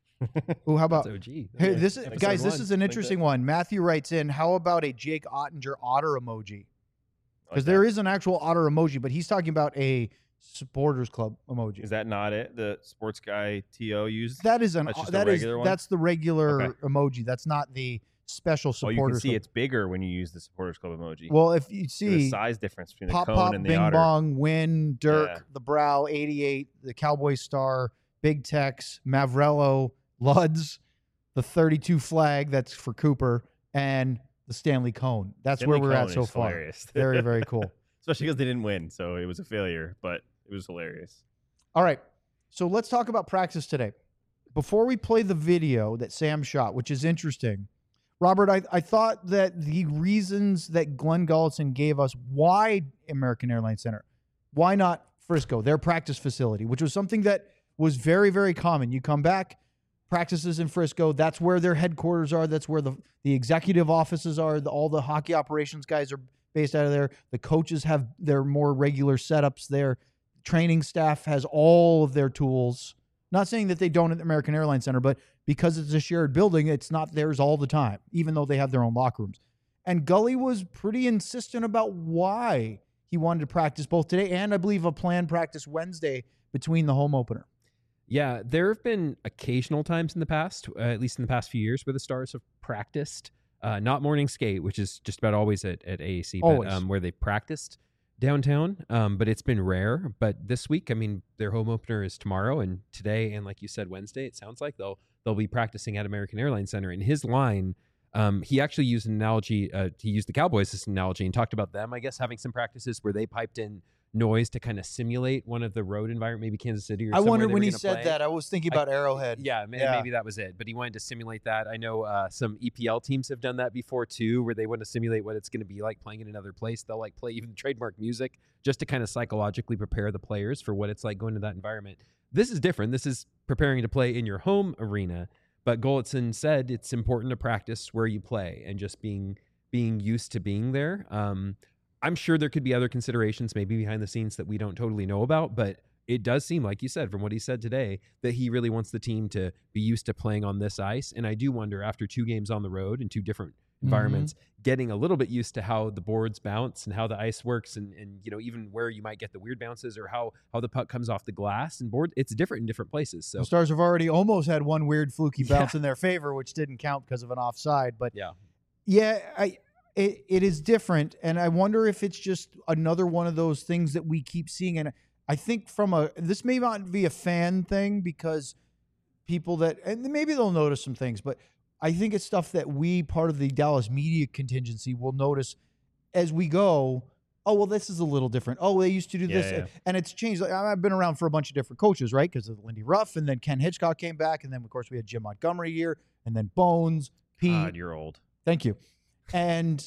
Oh, how about That's O G. Hey, Yeah. this is Episode guys, this one. is an Like interesting that. one. Matthew writes in, how about a Jake Ottinger otter emoji? Like Because that. there is an actual otter emoji, but he's talking about a supporters club emoji. Is that not it? The sports guy T O used. that is an That's just a that is regular one? that's the regular Okay. emoji. That's not the special Oh, supporters you can see club. it's bigger when you use the supporters club emoji. Well, if you the see size difference between the Pop cone Pop, and the Bing otter. Bong, Win, Dirk, Yeah. the Brow, eighty-eight, the Cowboy Star, Big Tex, Mavrello, Luds, the thirty-two flag that's for Cooper, and the Stanley Cone. That's Stanley where we're at Cone so is far. hilarious. Very, very cool. Especially because they didn't win, so it was a failure, but it was hilarious. All right. So let's talk about practice today. Before we play the video that Sam shot, which is interesting, Robert, I, I thought that the reasons that Glenn Gullitson gave us why American Airlines Center, why not Frisco, their practice facility, which was something that was very, very common. You come back, practices in Frisco, that's where their headquarters are. That's where the, the executive offices are. The, all the hockey operations guys are based out of there. The coaches have their more regular setups there. Training staff has all of their tools. Not saying that they don't at the American Airlines Center, but because it's a shared building, it's not theirs all the time, even though they have their own locker rooms. And Gully was pretty insistent about why he wanted to practice both today and I believe a planned practice Wednesday between the home opener. Yeah, there have been occasional times in the past, uh, at least in the past few years, where the Stars have practiced, uh, not morning skate, which is just about always at, at A A C, but Always. um, where they practiced downtown. Um, but it's been rare. But this week, I mean, their home opener is tomorrow, and today, and like you said, Wednesday. It sounds like they'll they'll be practicing at American Airlines Center. And his line, um, he actually used an analogy. Uh, he used the Cowboys as an analogy and talked about them, I guess, having some practices where they piped in noise to kind of simulate one of the road environment, maybe Kansas City or I somewhere wondered they when were he gonna said play. that. I was thinking I- about Arrowhead. Yeah, may- Yeah. maybe that was it. But he wanted to simulate that. I know uh, some E P L teams have done that before too, where they want to simulate what it's going to be like playing in another place. They'll like play even trademark music just to kind of psychologically prepare the players for what it's like going to that environment. This is different. This is preparing to play in your home arena. But Gullitson said it's important to practice where you play and just being being used to being there. Um, I'm sure there could be other considerations maybe behind the scenes that we don't totally know about, but it does seem, like you said, from what he said today, that he really wants the team to be used to playing on this ice. And I do wonder, after two games on the road in two different environments, getting a little bit used to how the boards bounce and how the ice works, and, and you know, even where you might get the weird bounces or how how the puck comes off the glass and board. It's different in different places. So The Stars have already almost had one weird fluky Yeah. bounce in their favor, which didn't count because of an offside. But yeah, yeah, I it, it is different, and I wonder if it's just another one of those things that we keep seeing. And I think from a this may not be a fan thing because people that and maybe they'll notice some things, but I think it's stuff that we, part of the Dallas media contingency, will notice as we go. Oh, well, this is a little different. Oh, they used to do Yeah, this. yeah. And it's changed. Like, I've been around for a bunch of different coaches, right? Because of Lindy Ruff, and then Ken Hitchcock came back, and then, of course, we had Jim Montgomery here, and then Bones, Pete. God, you're old. Thank you. And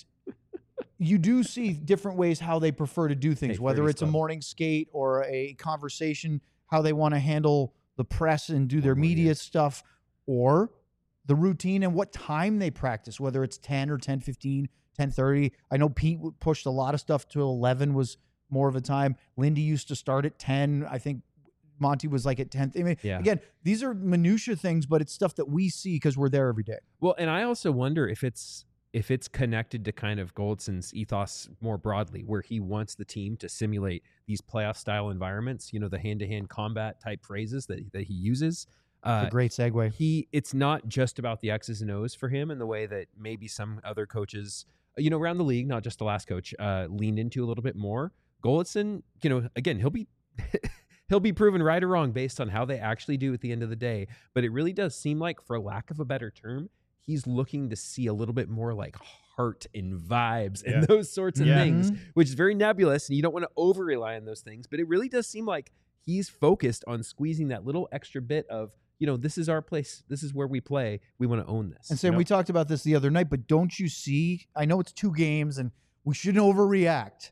you do see different ways how they prefer to do things, Hey, whether Freddie's it's a Club. morning skate or a conversation, how they want to handle the press and do their Or more, media yeah. stuff, or the routine and what time they practice, whether it's ten or ten fifteen, ten thirty. I know Pete w- pushed a lot of stuff to eleven was more of a time. Lindy used to start at ten. I think Monty was like at ten. I mean, Yeah. again, these are minutia things, but it's stuff that we see because we're there every day. Well, and I also wonder if it's if it's connected to kind of Goldson's ethos more broadly, where he wants the team to simulate these playoff style environments, you know, the hand to hand combat type phrases that that he uses. Uh, It's a great segue. he it's not just about the X's and O's for him in the way that maybe some other coaches, you know, around the league, not just the last coach, uh, leaned into a little bit more. Goldson, you know, again, he'll be he'll be proven right or wrong based on how they actually do at the end of the day. But it really does seem like, for lack of a better term, he's looking to see a little bit more like heart and vibes and Yeah. those sorts of Yeah. things, Mhm. which is very nebulous, and you don't want to over rely on those things. But it really does seem like he's focused on squeezing that little extra bit of, you know, this is our place. This is where we play. We want to own this. And Sam, Yep. we talked about this the other night, but don't you see? I know it's two games and we shouldn't overreact.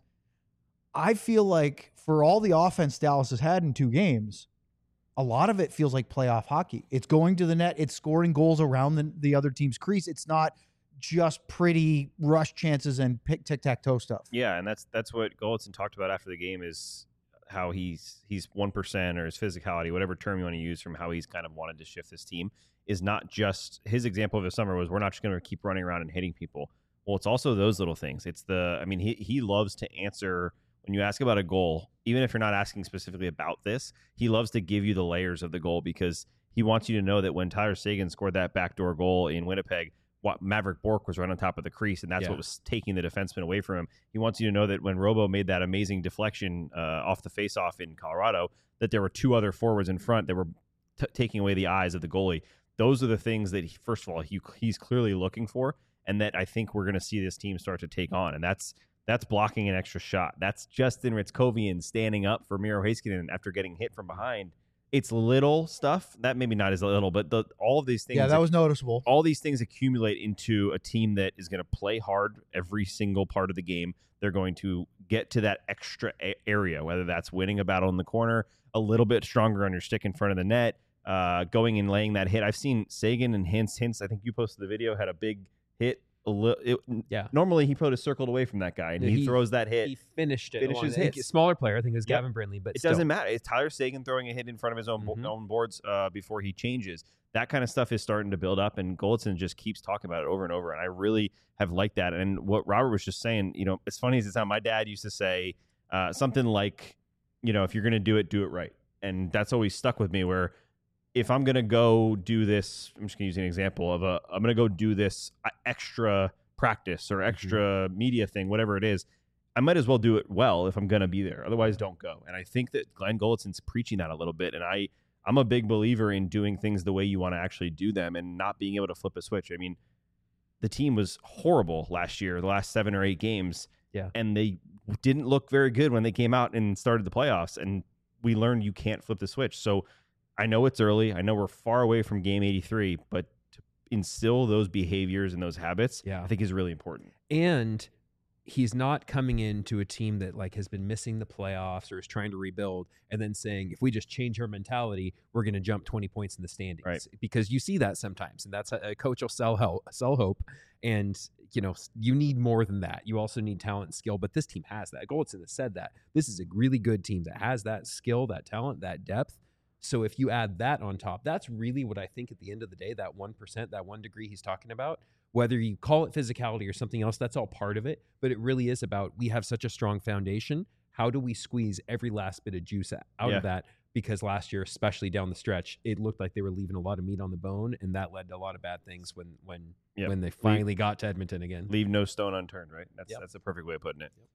I feel like for all the offense Dallas has had in two games, a lot of it feels like playoff hockey. It's going to the net, it's scoring goals around the, the other team's crease. It's not just pretty rush chances and pick tic tac toe stuff. Yeah, and that's that's what Goldson talked about after the game, is how he's he's one percent, or his physicality, whatever term you want to use, from how he's kind of wanted to shift this team, is not just his example of the summer was, we're not just going to keep running around and hitting people. Well, it's also those little things. It's the, I mean, he he loves to answer when you ask about a goal, even if you're not asking specifically about this, he loves to give you the layers of the goal, because he wants you to know that when Tyler Seguin scored that backdoor goal in Winnipeg, what Maverick Bourque was right on top of the crease, and that's Yeah. what was taking the defenseman away from him. He wants you to know that when Robo made that amazing deflection uh, off the faceoff in Colorado, that there were two other forwards in front that were t- taking away the eyes of the goalie. Those are the things that, he, first of all, he, he's clearly looking for, and that I think we're going to see this team start to take on. And that's that's blocking an extra shot. That's Justin Ritzkovian standing up for Miro Heiskanen after getting hit from behind. It's little stuff. That maybe not as little, but the, all of these things. Yeah, that was noticeable. All these things accumulate into a team that is going to play hard every single part of the game. They're going to get to that extra a- area, whether that's winning a battle in the corner, a little bit stronger on your stick in front of the net, uh, going and laying that hit. I've seen Seguin and Hintz. Hintz, I think you posted the video, had a big hit. A li- it, Yeah. Normally he put a circled away from that guy, and Yeah, he, he- throws that hit. He finished it. Finishes along- hits. A smaller player, I think it was Yep. Gavin Brindley, but It still. doesn't matter. It's Tyler Seguin throwing a hit in front of his own bo- Mhm. own boards uh, before he changes. That kind of stuff is starting to build up, and Goldson just keeps talking about it over and over. And I really have liked that. And what Robert was just saying, you know, as funny as it's not, my dad used to say uh, something like, you know, if you're going to do it, do it right. And that's always stuck with me, where if I'm going to go do this, I'm just going to use an example of a, I'm going to go do this uh, extra practice or extra media thing, whatever it is, I might as well do it well if I'm going to be there. Otherwise, don't go. And I think that Glenn Goldson's preaching that a little bit. And I, I'm a big believer in doing things the way you want to actually do them and not being able to flip a switch. I mean, the team was horrible last year, the last seven or eight games. Yeah. And they didn't look very good when they came out and started the playoffs. And we learned you can't flip the switch. So I know it's early. I know we're far away from game eighty-three, but to instill those behaviors and those habits, Yeah. I think is really important. And he's not coming into a team that like has been missing the playoffs or is trying to rebuild and then saying, if we just change our mentality, we're going to jump twenty points in the standings. Right. Because you see that sometimes, and that's a, a coach will sell help, sell hope. And, you know, you need more than that. You also need talent and skill, but this team has that. Goldson has said that. This is a really good team that has that skill, that talent, that depth. So if you add that on top, that's really what I think at the end of the day, that one percent, that one degree he's talking about, whether you call it physicality or something else, that's all part of it. But it really is about, we have such a strong foundation. How do we squeeze every last bit of juice out Yeah. of that? Because last year, especially down the stretch, it looked like they were leaving a lot of meat on the bone, and that led to a lot of bad things when when Yep. when they finally got to Edmonton again. Leave no stone unturned, right? That's Yep. that's the perfect way of putting it.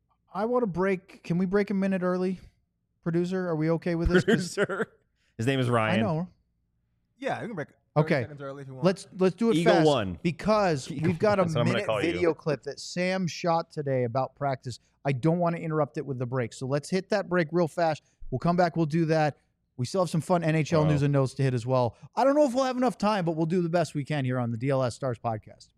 I want to break. Can we break a minute early, producer? Are we okay with this? 'Cause Producer. His name is I Ryan. know. Yeah, you can break. Okay. Seconds early if you want. Let's let's do it Eagle fast one. because Eagle we've got a one. That's what I'm gonna minute call you. video clip that Sam shot today about practice. I don't want to interrupt it with the break, so let's hit that break real fast. We'll come back. We'll do that. We still have some fun N H L Wow. news and notes to hit as well. I don't know if we'll have enough time, but we'll do the best we can here on the D L S Stars podcast.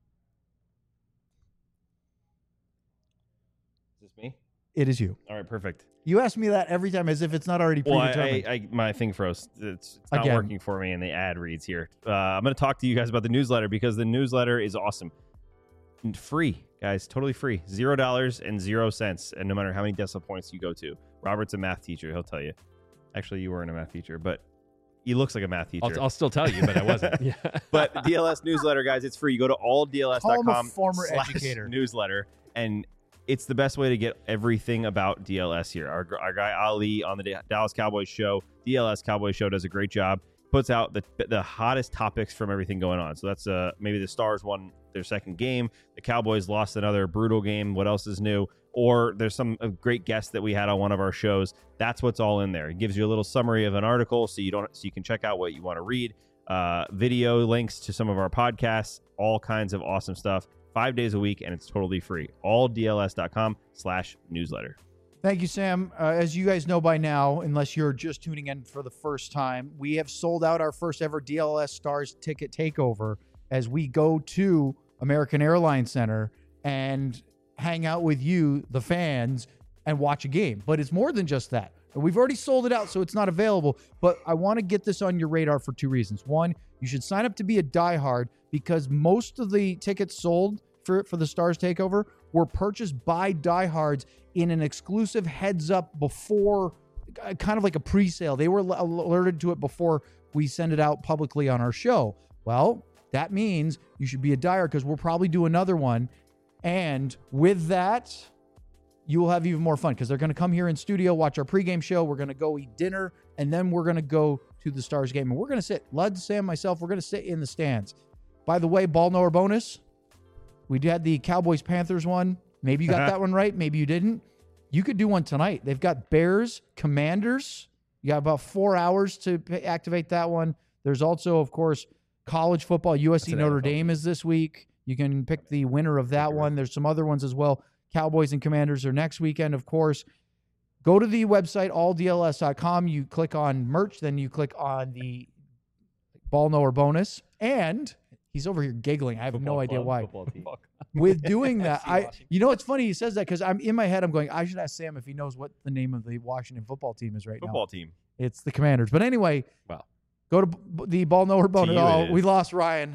Is this me? It is you. All right, perfect. You ask me that every time as if it's not already Well, I, predetermined. I, I my thing froze. It's, it's not Again. working for me, and the ad reads here. Uh, I'm going to talk to you guys about the newsletter because the newsletter is awesome. And free, guys, totally free. Zero dollars and zero cents, and no matter how many decimal points you go to. Robert's a math teacher; he'll tell you. Actually, you weren't a math teacher, but He looks like a math teacher. I'll, I'll still tell you, but I wasn't. Yeah. But D L S newsletter, guys, it's free. You go to all D L S dot com Call him a former slash educator. newsletter, and it's the best way to get everything about D L S here. Our, our guy Ali on the Dallas Cowboys show, D L S Cowboys show, does a great job. Puts out the the hottest topics from everything going on. So that's uh maybe the Stars won their second game. The Cowboys lost another brutal game. What else is new? Or there's some uh, great guests that we had on one of our shows. That's what's all in there. It gives you a little summary of an article, so you don't so you can check out what you want to read. Uh, video links to some of our podcasts, all kinds of awesome stuff. Five days a week, and it's totally free. all D L S dot com slash newsletter. Thank you, Sam. Uh, as you guys know by now, unless you're just tuning in for the first time, we have sold out our first ever D L S Stars ticket takeover as we go to American Airlines Center and hang out with you, the fans, and watch a game. But it's more than just that. We've already sold it out, so it's not available. But I want to get this on your radar for two reasons. One, you should sign up to be a diehard because most of the tickets sold for, for the Stars takeover were purchased by diehards in an exclusive heads up before, kind of like a pre-sale. They were alerted to it before we send it out publicly on our show. Well, that means you should be a diehard because we'll probably do another one. And with that, you will have even more fun because they're going to come here in studio, watch our pregame show. We're going to go eat dinner, and then we're going to go to the Stars game. And we're going to sit, Lud, Sam, myself, we're going to sit in the stands. By the way, ball knower bonus. We had the Cowboys-Panthers one. Maybe you got that one right. Maybe you didn't. You could do one tonight. They've got Bears, Commanders. You got about four hours to activate that one. There's also, of course, college football. U S C Notre Dame is this week. You can pick the winner of that one. There's some other ones as well. Cowboys and Commanders are next weekend, of course. Go to the website, all D L S dot com. You click on merch. Then you click on the ball knower bonus. And he's over here giggling. I have Football no idea club, why. football team. With doing that, I you know it's funny he says that because I'm in my head I'm going I should ask Sam if he knows what the name of the Washington football team is right Football now. team. It's the Commanders. But anyway, Wow. Go to b- the ball knower bonus. you Oh, it we is. lost Ryan.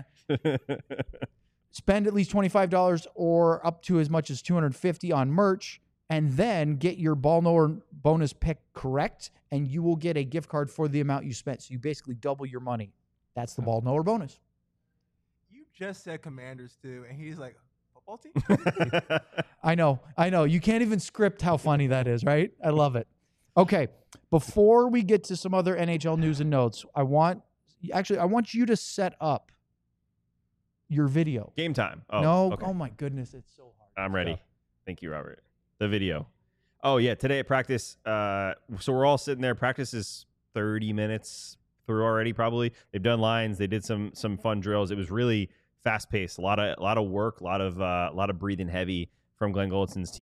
Spend at least twenty-five dollars or up to as much as two hundred fifty dollars on merch, and then get your ball knower bonus pick correct, and you will get a gift card for the amount you spent. So you basically double your money. That's the ball knower bonus. You just said Commanders too, and he's like, football team? I know. I know. You can't even script how funny that is, right? I love it. Okay. Before we get to some other N H L news and notes, I want actually I want you to set up your video. Game time. Oh, no. okay. Oh my goodness, it's so hard. I'm ready. Thank you, Robert. The video. Oh, yeah. Today at practice, uh, so we're all sitting there. Practice is thirty minutes through already, probably. They've done lines. They did some some fun drills. It was really fast paced. A lot of a lot of work. A lot of uh, a lot of breathing heavy from Glenn Goldson's team.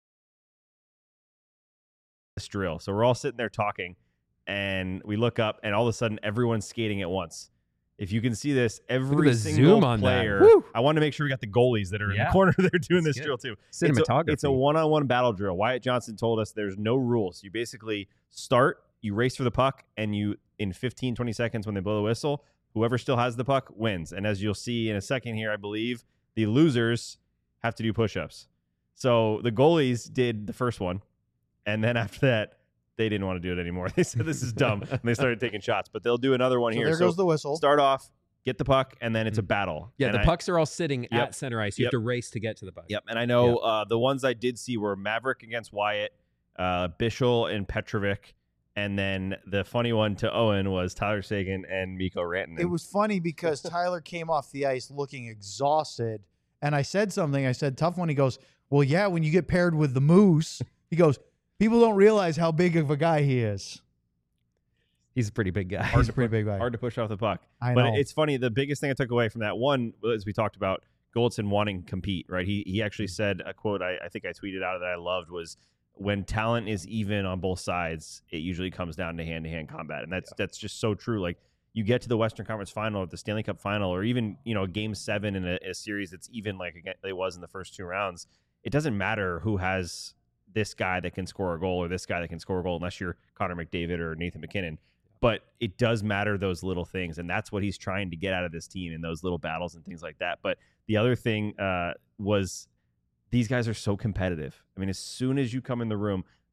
This drill. So we're all sitting there talking, and we look up, and all of a sudden, everyone's skating at once. If you can see this, every the single zoom on that. player. Woo! I want to make sure we got the goalies that are in Yeah. the corner. They're doing That's this good. drill too. Cinematography. It's a, it's a one-on-one battle drill. Wyatt Johnson told us there's no rules. You basically start, you race for the puck, and you in fifteen, twenty seconds when they blow the whistle, whoever still has the puck wins. And as you'll see in a second here, I believe the losers have to do push-ups. So the goalies did the first one, and then after that, they didn't want to do it anymore. They said this is dumb, and they started taking shots. But they'll do another one So here. there goes the whistle. Start off, get the puck, and then it's a battle. Yeah, And the I- pucks are all sitting Yep. at center ice. You Yep. have to race to get to the puck. Yep, and I know uh, the ones I did see were Maverick against Wyatt, uh, Bischel and Petrovic, and then the funny one to Owen was Tyler Sagan and Mikko Rantanen. It was funny because Tyler came off the ice looking exhausted, and I said something. I said, "Tough one." He goes, "Well, yeah, when you get paired with the Moose," he goes, "People don't realize how big of a guy he is." He's a pretty big guy. He's a pretty big guy. hard to push off the puck. I but know. it's funny. The biggest thing I took away from that one, as we talked about, Goldson wanting to compete. Right? He he actually said a quote I, I think I tweeted out that I loved was, "When talent is even on both sides, it usually comes down to hand to hand combat," and that's that's just so true. Like you get to the Western Conference Final, or the Stanley Cup Final, or even you know Game Seven in a, a series that's even like again, it was in the first two rounds. It doesn't matter who has this guy that can score a goal or this guy that can score a goal, unless you're Connor McDavid or Nathan McKinnon. But it does matter, those little things, and that's what he's trying to get out of this team in those little battles and things like that. But the other thing uh, was these guys are so competitive. I mean, as soon as you come in the room,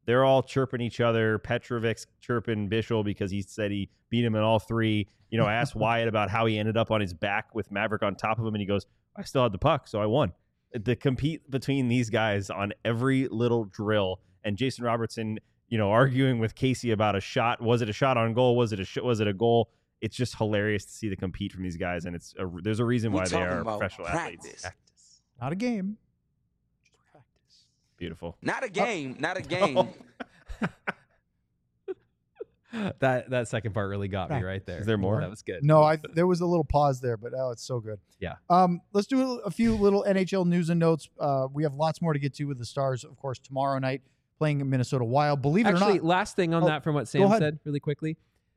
they're all chirping each other. Petrovic's chirping Bischel because he said he beat him in all three. You know, I asked Wyatt about how he ended up on his back with Maverick on top of him, and he goes, I still had the puck, so I won. The compete between these guys on every little drill, and Jason Robertson, you know, arguing with Casey about a shot. Was it a shot on goal? Was it a sh- was it a goal? It's just hilarious to see the compete from these guys, and it's a, there's a reason why they are professional practice. athletes. Not a game. Just practice. Beautiful. Not a game. Not a game. that that second part really got me Right. right there. Is there more? That was good. No, I there was a little pause there, but oh, it's so good. Yeah. Um, let's do a few little N H L news and notes. Uh, we have lots more to get to with the Stars, of course, tomorrow night playing Minnesota Wild. Believe it Actually, or not, last thing on Oh, that from what go Sam ahead. said really quickly.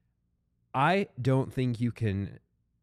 I don't think you can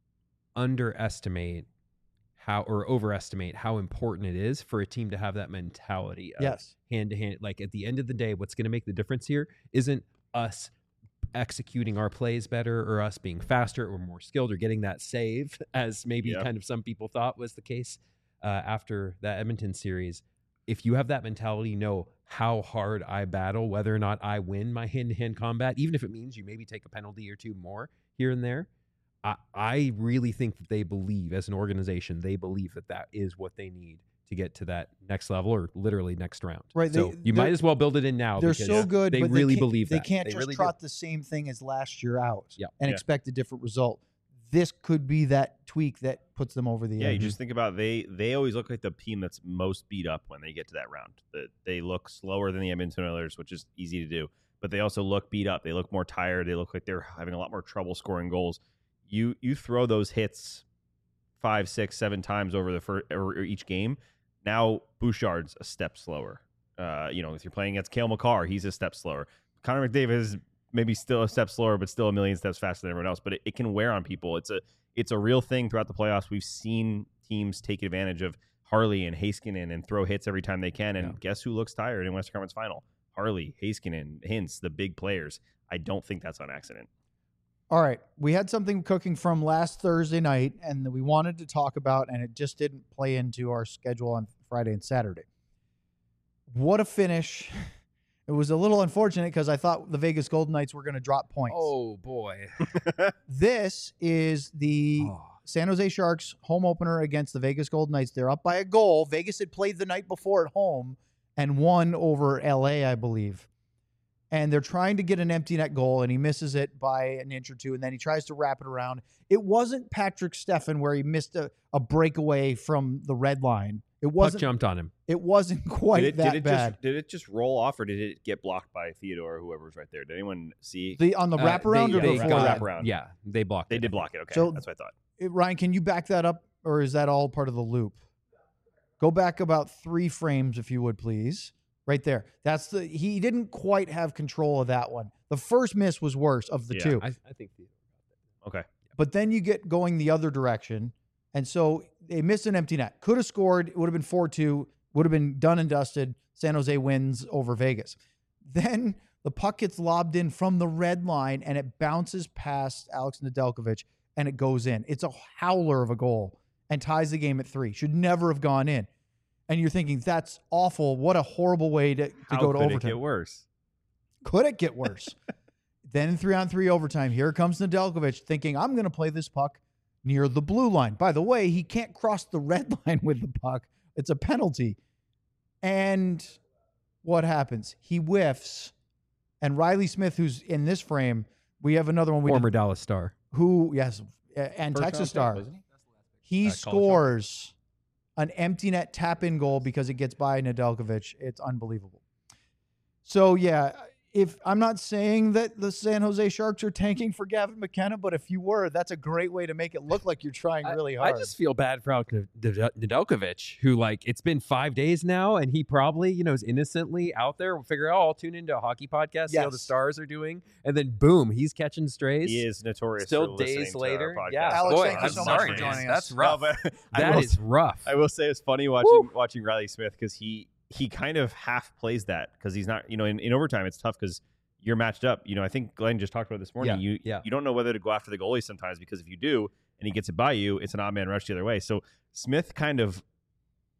underestimate how or overestimate how important it is for a team to have that mentality of yes, hand to hand. Like at the end of the day, what's going to make the difference here isn't us executing our plays better or us being faster or more skilled or getting that save, as maybe Yeah. kind of some people thought was the case uh, after that Edmonton series. If you have that mentality, know how hard I battle, whether or not I win my hand-to-hand combat, even if it means you maybe take a penalty or two more here and there. I, I really think that they believe, as an organization, they believe that that is what they need to get to that next level or literally next round. Right, So they- you might they're- as well build it in now. they're because so good. They but really they can't, believe they that. can't They just really do. trot the same thing as last year out Yeah. and Yeah. expect a different result. This could be that tweak that puts them over the Yeah, edge. you just think about they they always look like the team that's most beat up when they get to that round. The, they look slower than the Edmonton Oilers, which is easy to do, but they also look beat up. They look more tired. They look like they're having a lot more trouble scoring goals. You you throw those hits five, six, seven times over the first, or each game. Now Bouchard's a step slower. Uh, you know, if you're playing against Cale Makar, he's a step slower. Connor McDavid is maybe still a step slower, but still a million steps faster than everyone else. But it, it can wear on people. It's a it's a real thing throughout the playoffs. We've seen teams take advantage of Harley and Heiskanen and throw hits every time they can. And Yeah. guess who looks tired in Western Conference Final? Harley, Heiskanen, Hintz, the big players. I don't think that's on accident. All right. We had something cooking from last Thursday night and that we wanted to talk about, and it just didn't play into our schedule on Friday and Saturday. What a finish. It was a little unfortunate because I thought the Vegas Golden Knights were going to drop points. Oh, boy. This is the Oh. San Jose Sharks home opener against the Vegas Golden Knights. They're up by a goal. Vegas had played the night before at home and won over L A, I believe. And they're trying to get an empty net goal, and he misses it by an inch or two, and then he tries to wrap it around. It wasn't Patrick Steffen where he missed a, a breakaway from the red line. It Puck wasn't. jumped on him. It wasn't quite did it, that did it bad. Just, did it just roll off, or did it get blocked by Theodore or whoever was right there? Did anyone see? the on the Uh, wraparound they- or they before got- that? wraparound. Yeah, they blocked They it. did block it. Okay, So- that's what I thought. It- Ryan, can you back that up, or is that all part of the loop? Go back about three frames, if you would, please. Right there. That's the. He didn't quite have control of that one. The first miss was worse of the Yeah, two, I, I think Theodore got that. Okay. but then you get going the other direction, and so they missed an empty net. Could have scored. It would have been four two. Would have been done and dusted. San Jose wins over Vegas. Then the puck gets lobbed in from the red line, and it bounces past Alex Nedeljkovic, and it goes in. It's a howler of a goal and ties the game at three. Should never have gone in. And you're thinking, that's awful. What a horrible way to, to How go to could overtime. it get worse? Could it get worse? Then in three on three overtime, here comes Nedeljkovic thinking, I'm going to play this puck near the blue line. By the way, he can't cross the red line with the puck. It's a penalty. And what happens? He whiffs. And Riley Smith, who's in this frame, we have another one. We Former did, Dallas Star. who, yes, uh, and First Texas round pick, star. wasn't he? He Uh, college scores an empty net tap in goal because it gets by Nedeljkovic. It's unbelievable. So, yeah, if I'm not saying that the San Jose Sharks are tanking for Gavin McKenna, but if you were, that's a great way to make it look like you're trying really I hard. just feel bad for Alex Nedeljkovic, who, like, it's been five days now, and he probably, you know, is innocently out there. We'll figure, oh, I'll tune into a hockey podcast, see how the Yes. Stars are doing, and then boom, he's catching strays. He is notorious. Still for listening days to our later. podcast. Yeah, Alex, boy, thank you I'm so much sorry, for man. joining That's us. rough. No, but I That will- is rough. I will say it's funny watching watching Riley Smith because he he kind of half plays that because he's not, you know, in, in overtime it's tough because you're matched up. You know, I think Glenn just talked about it this morning. Yeah, you yeah. you don't know whether to go after the goalie sometimes because if you do and he gets it by you, it's an odd man rush the other way. So Smith kind of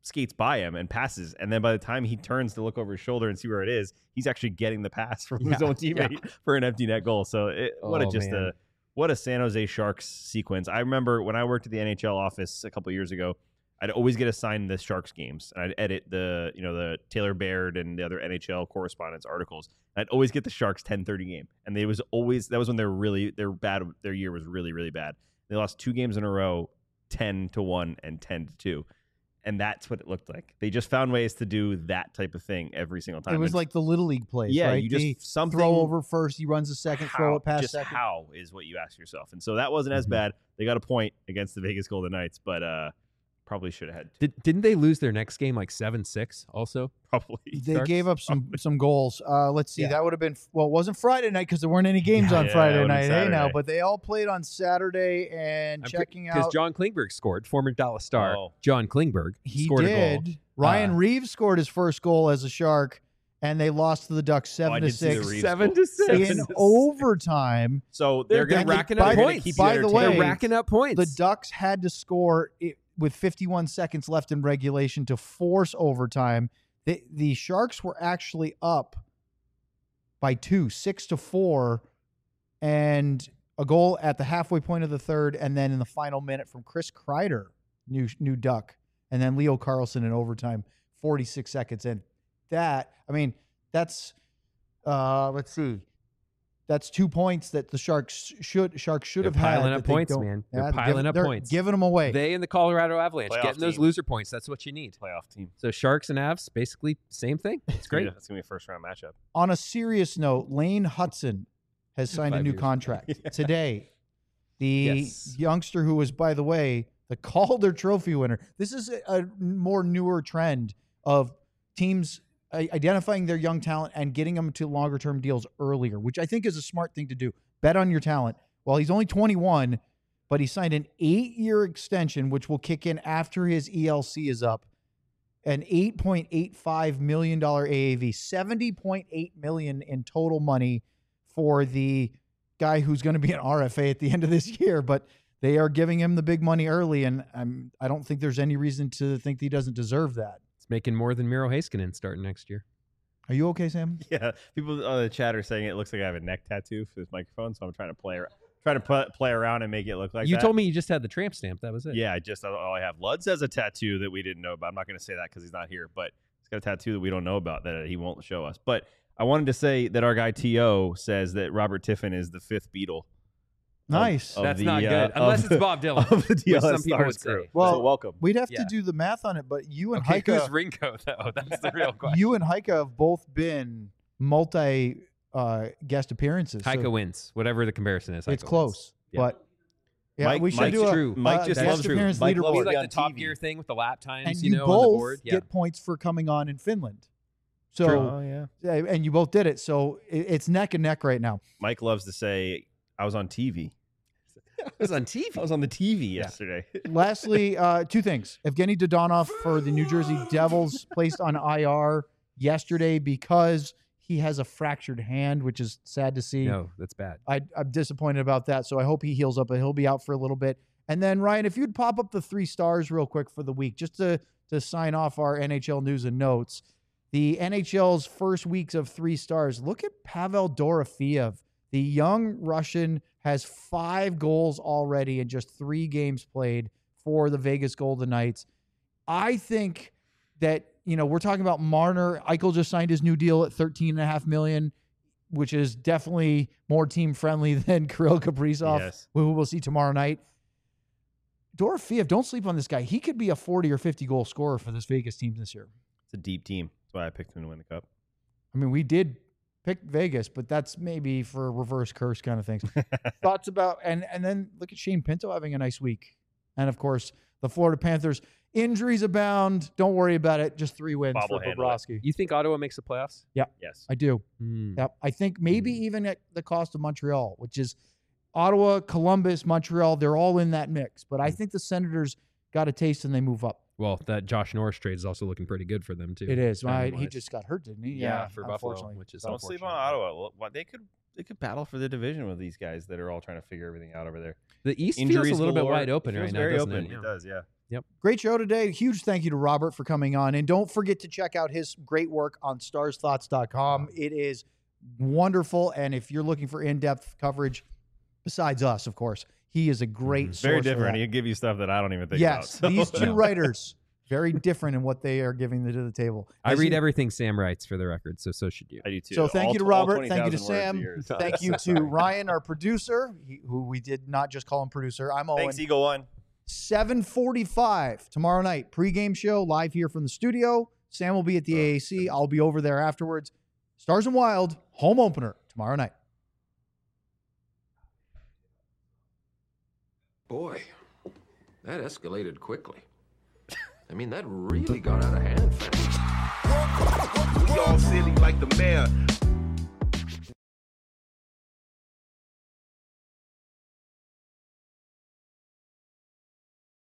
skates by him and passes, and then by the time he turns to look over his shoulder and see where it is, he's actually getting the pass from his Yeah, own teammate yeah. for an empty net goal. So it, what a Oh, just man. a what a San Jose Sharks sequence. I remember when I worked at the N H L office a couple of years ago, I'd always get assigned the Sharks games, and I'd edit the you know the Taylor Baird and the other N H L correspondents articles. And I'd always get the Sharks ten thirty game, and they was always that was when they were really their bad their year was really really bad. They lost two games in a row, ten to one and ten to two. And that's what it looked like. They just found ways to do that type of thing every single time. It was And like the little league plays. yeah, right? you just They something throw over first. He runs a second, how, throw it past just second. how is what you ask yourself. And so that wasn't as Mhm. bad. They got a point against the Vegas Golden Knights, but uh, probably should have had two. Did, didn't they lose their next game like seven six also? Probably. They Sharks? gave up some some goals. Uh, let's see. Yeah. That would have been well. It wasn't Friday night because there weren't any games Yeah, on yeah, it Friday would've been night. Hey now, Saturday. but they all played on Saturday. And checking Because out, John Klingberg scored, former Dallas Star. Oh. John Klingberg he scored a goal. did. Ryan Uh, Reeves scored his first goal as a Shark, and they lost to the Ducks Oh, I seven to did see the six Reeves Seven goal. to six. Seven in to six. overtime. So They're, they're they're going to racking by up the- points. keep you by the way, they're racking up points. The Ducks had to score it with fifty-one seconds left in regulation to force overtime. The, the Sharks were actually up by two, six to four, and a goal at the halfway point of the third, and then in the final minute from Chris Kreider, new new Duck, and then Leo Carlson in overtime, forty-six seconds in. That, I mean, that's, uh, let's see. That's two points that the Sharks should Sharks should They're have had. piling up that they points, don't- man. They're Yeah, piling give- up they're points. Giving them away. They and the Colorado Avalanche Playoff getting those team. loser points. That's what you need. playoff team. So Sharks and Avs, basically same thing. It's great. It's going to be a first round matchup. On a serious note, Lane Hudson has signed a Five new years. contract Yeah. today. The Yes. youngster who was, by the way, the Calder Trophy winner. This is a, a more newer trend of teams i- identifying their young talent and getting them to longer term deals earlier, which I think is a smart thing to do. Bet on your talent. Well, he's only twenty-one, but he signed an eight year extension, which will kick in after his E L C is up. An eight point eight five million dollars A A V, seventy point eight million dollars in total money for the guy who's going to be an R F A at the end of this year. But they are giving him the big money early, and I'm, I don't think there's any reason to think he doesn't deserve that. It's making more than Miro Heiskanen starting next year. Are you okay, Sam? Yeah, people on the chat are saying it looks like I have a neck tattoo for this microphone, so I'm trying to play ar- trying to pl- play around and make it look like you that. told me you just had the tramp stamp. That was it. Yeah, I just all I have. Luds has a tattoo that we didn't know about. I'm not going to say that because he's not here, but he's got a tattoo that we don't know about that he won't show us. But I wanted to say that our guy T O says that Robert Tiffin is the fifth Beatle. of- Nice. of That's the, not uh, good. of Unless it's the- Bob Dylan, of the which D L S some people would Stars crew. say. Well, So welcome. We'd have Yeah. to do the math on it, but you and Okay, Heike, who's Ringo though? That's the real question. you and Heike have both been multi uh, guest appearances. so Heike wins. Whatever the comparison is. it's Heike close, wins. Yeah. but yeah, Mike- we should Mike's do a true. Mike uh, just guest loves appearance Mike leaderboard. loves Maybe be like on the Top T V. Gear thing with the lap times, and you, you know, both on the board. Yeah. get points for coming on in Finland. So, Oh yeah. yeah, and you both did it. So it, it's neck and neck right now. Mike loves to say I was on T V. I was on T V. I was on the T V yesterday. Lastly, uh, two things. Evgeny Dodonov for the New Jersey Devils placed on I R yesterday because he has a fractured hand, which is sad to see. No, that's bad. I, I'm disappointed about that. So I hope he heals up, but he'll be out for a little bit. And then, Ryan, if you'd pop up the three stars real quick for the week, just to, to sign off our N H L news and notes. The N H L's first weeks of three stars. Look at Pavel Dorofeev. The young Russian has five goals already in just three games played for the Vegas Golden Knights. I think that, you know, we're talking about Marner. Eichel just signed his new deal at thirteen and a half million, which is definitely more team friendly than Kirill Kaprizov, Yes. who we'll see tomorrow night. Dorofeev, don't sleep on this guy. He could be a forty or fifty goal scorer for this Vegas team this year. It's a deep team. That's why I picked him to win the cup. I mean, we did pick Vegas, but that's maybe for reverse curse kind of things. Thoughts about, and and then look at Shane Pinto having a nice week. And of course, the Florida Panthers, injuries abound. Don't worry about it. Just three wins Bob for will handle it. Bobrovsky. You think Ottawa makes the playoffs? Yes. I do. Hmm. Yep. I think maybe even at the cost of Montreal, which is Ottawa, Columbus, Montreal, they're all in that mix. But I think the Senators got a taste and they move up. Well, that Josh Norris trade is also looking pretty good for them too. It is. Right? He timing-wise. just got hurt, didn't he? Yeah, for Buffalo, unfortunately. which is Don't sleep on unfortunate. Ottawa. What they could they could battle for the division with these guys that are all trying to figure everything out over there. The East Injuries feels a little bit galore. wide open It feels right now. very doesn't open. It? It does, yeah. Great show today. Huge thank you to Robert for coming on. And don't forget to check out his great work on stars thoughts dot com. It is wonderful. And if you're looking for in-depth coverage, besides us, of course, he is a great It's source. very for different. that. He'll give you stuff that I don't even think Yes, about. so- these two writers, very different in what they are giving to the table. I As read you- everything Sam writes for the record, so so should you. I do too. So thank All you to tw- all Robert. Thank you to twenty thousand words Sam. a year. Thank you to Ryan, our producer, he, who we did not just call him producer. I'm Owen. Thanks, Eagle One. seven forty-five tomorrow night, pregame show live here from the studio. Sam will be at the A A C. I'll be over there afterwards. Stars and Wild, home opener tomorrow night. Boy, that escalated quickly. I mean, that really got out of hand fast. Y'all silly like the mayor.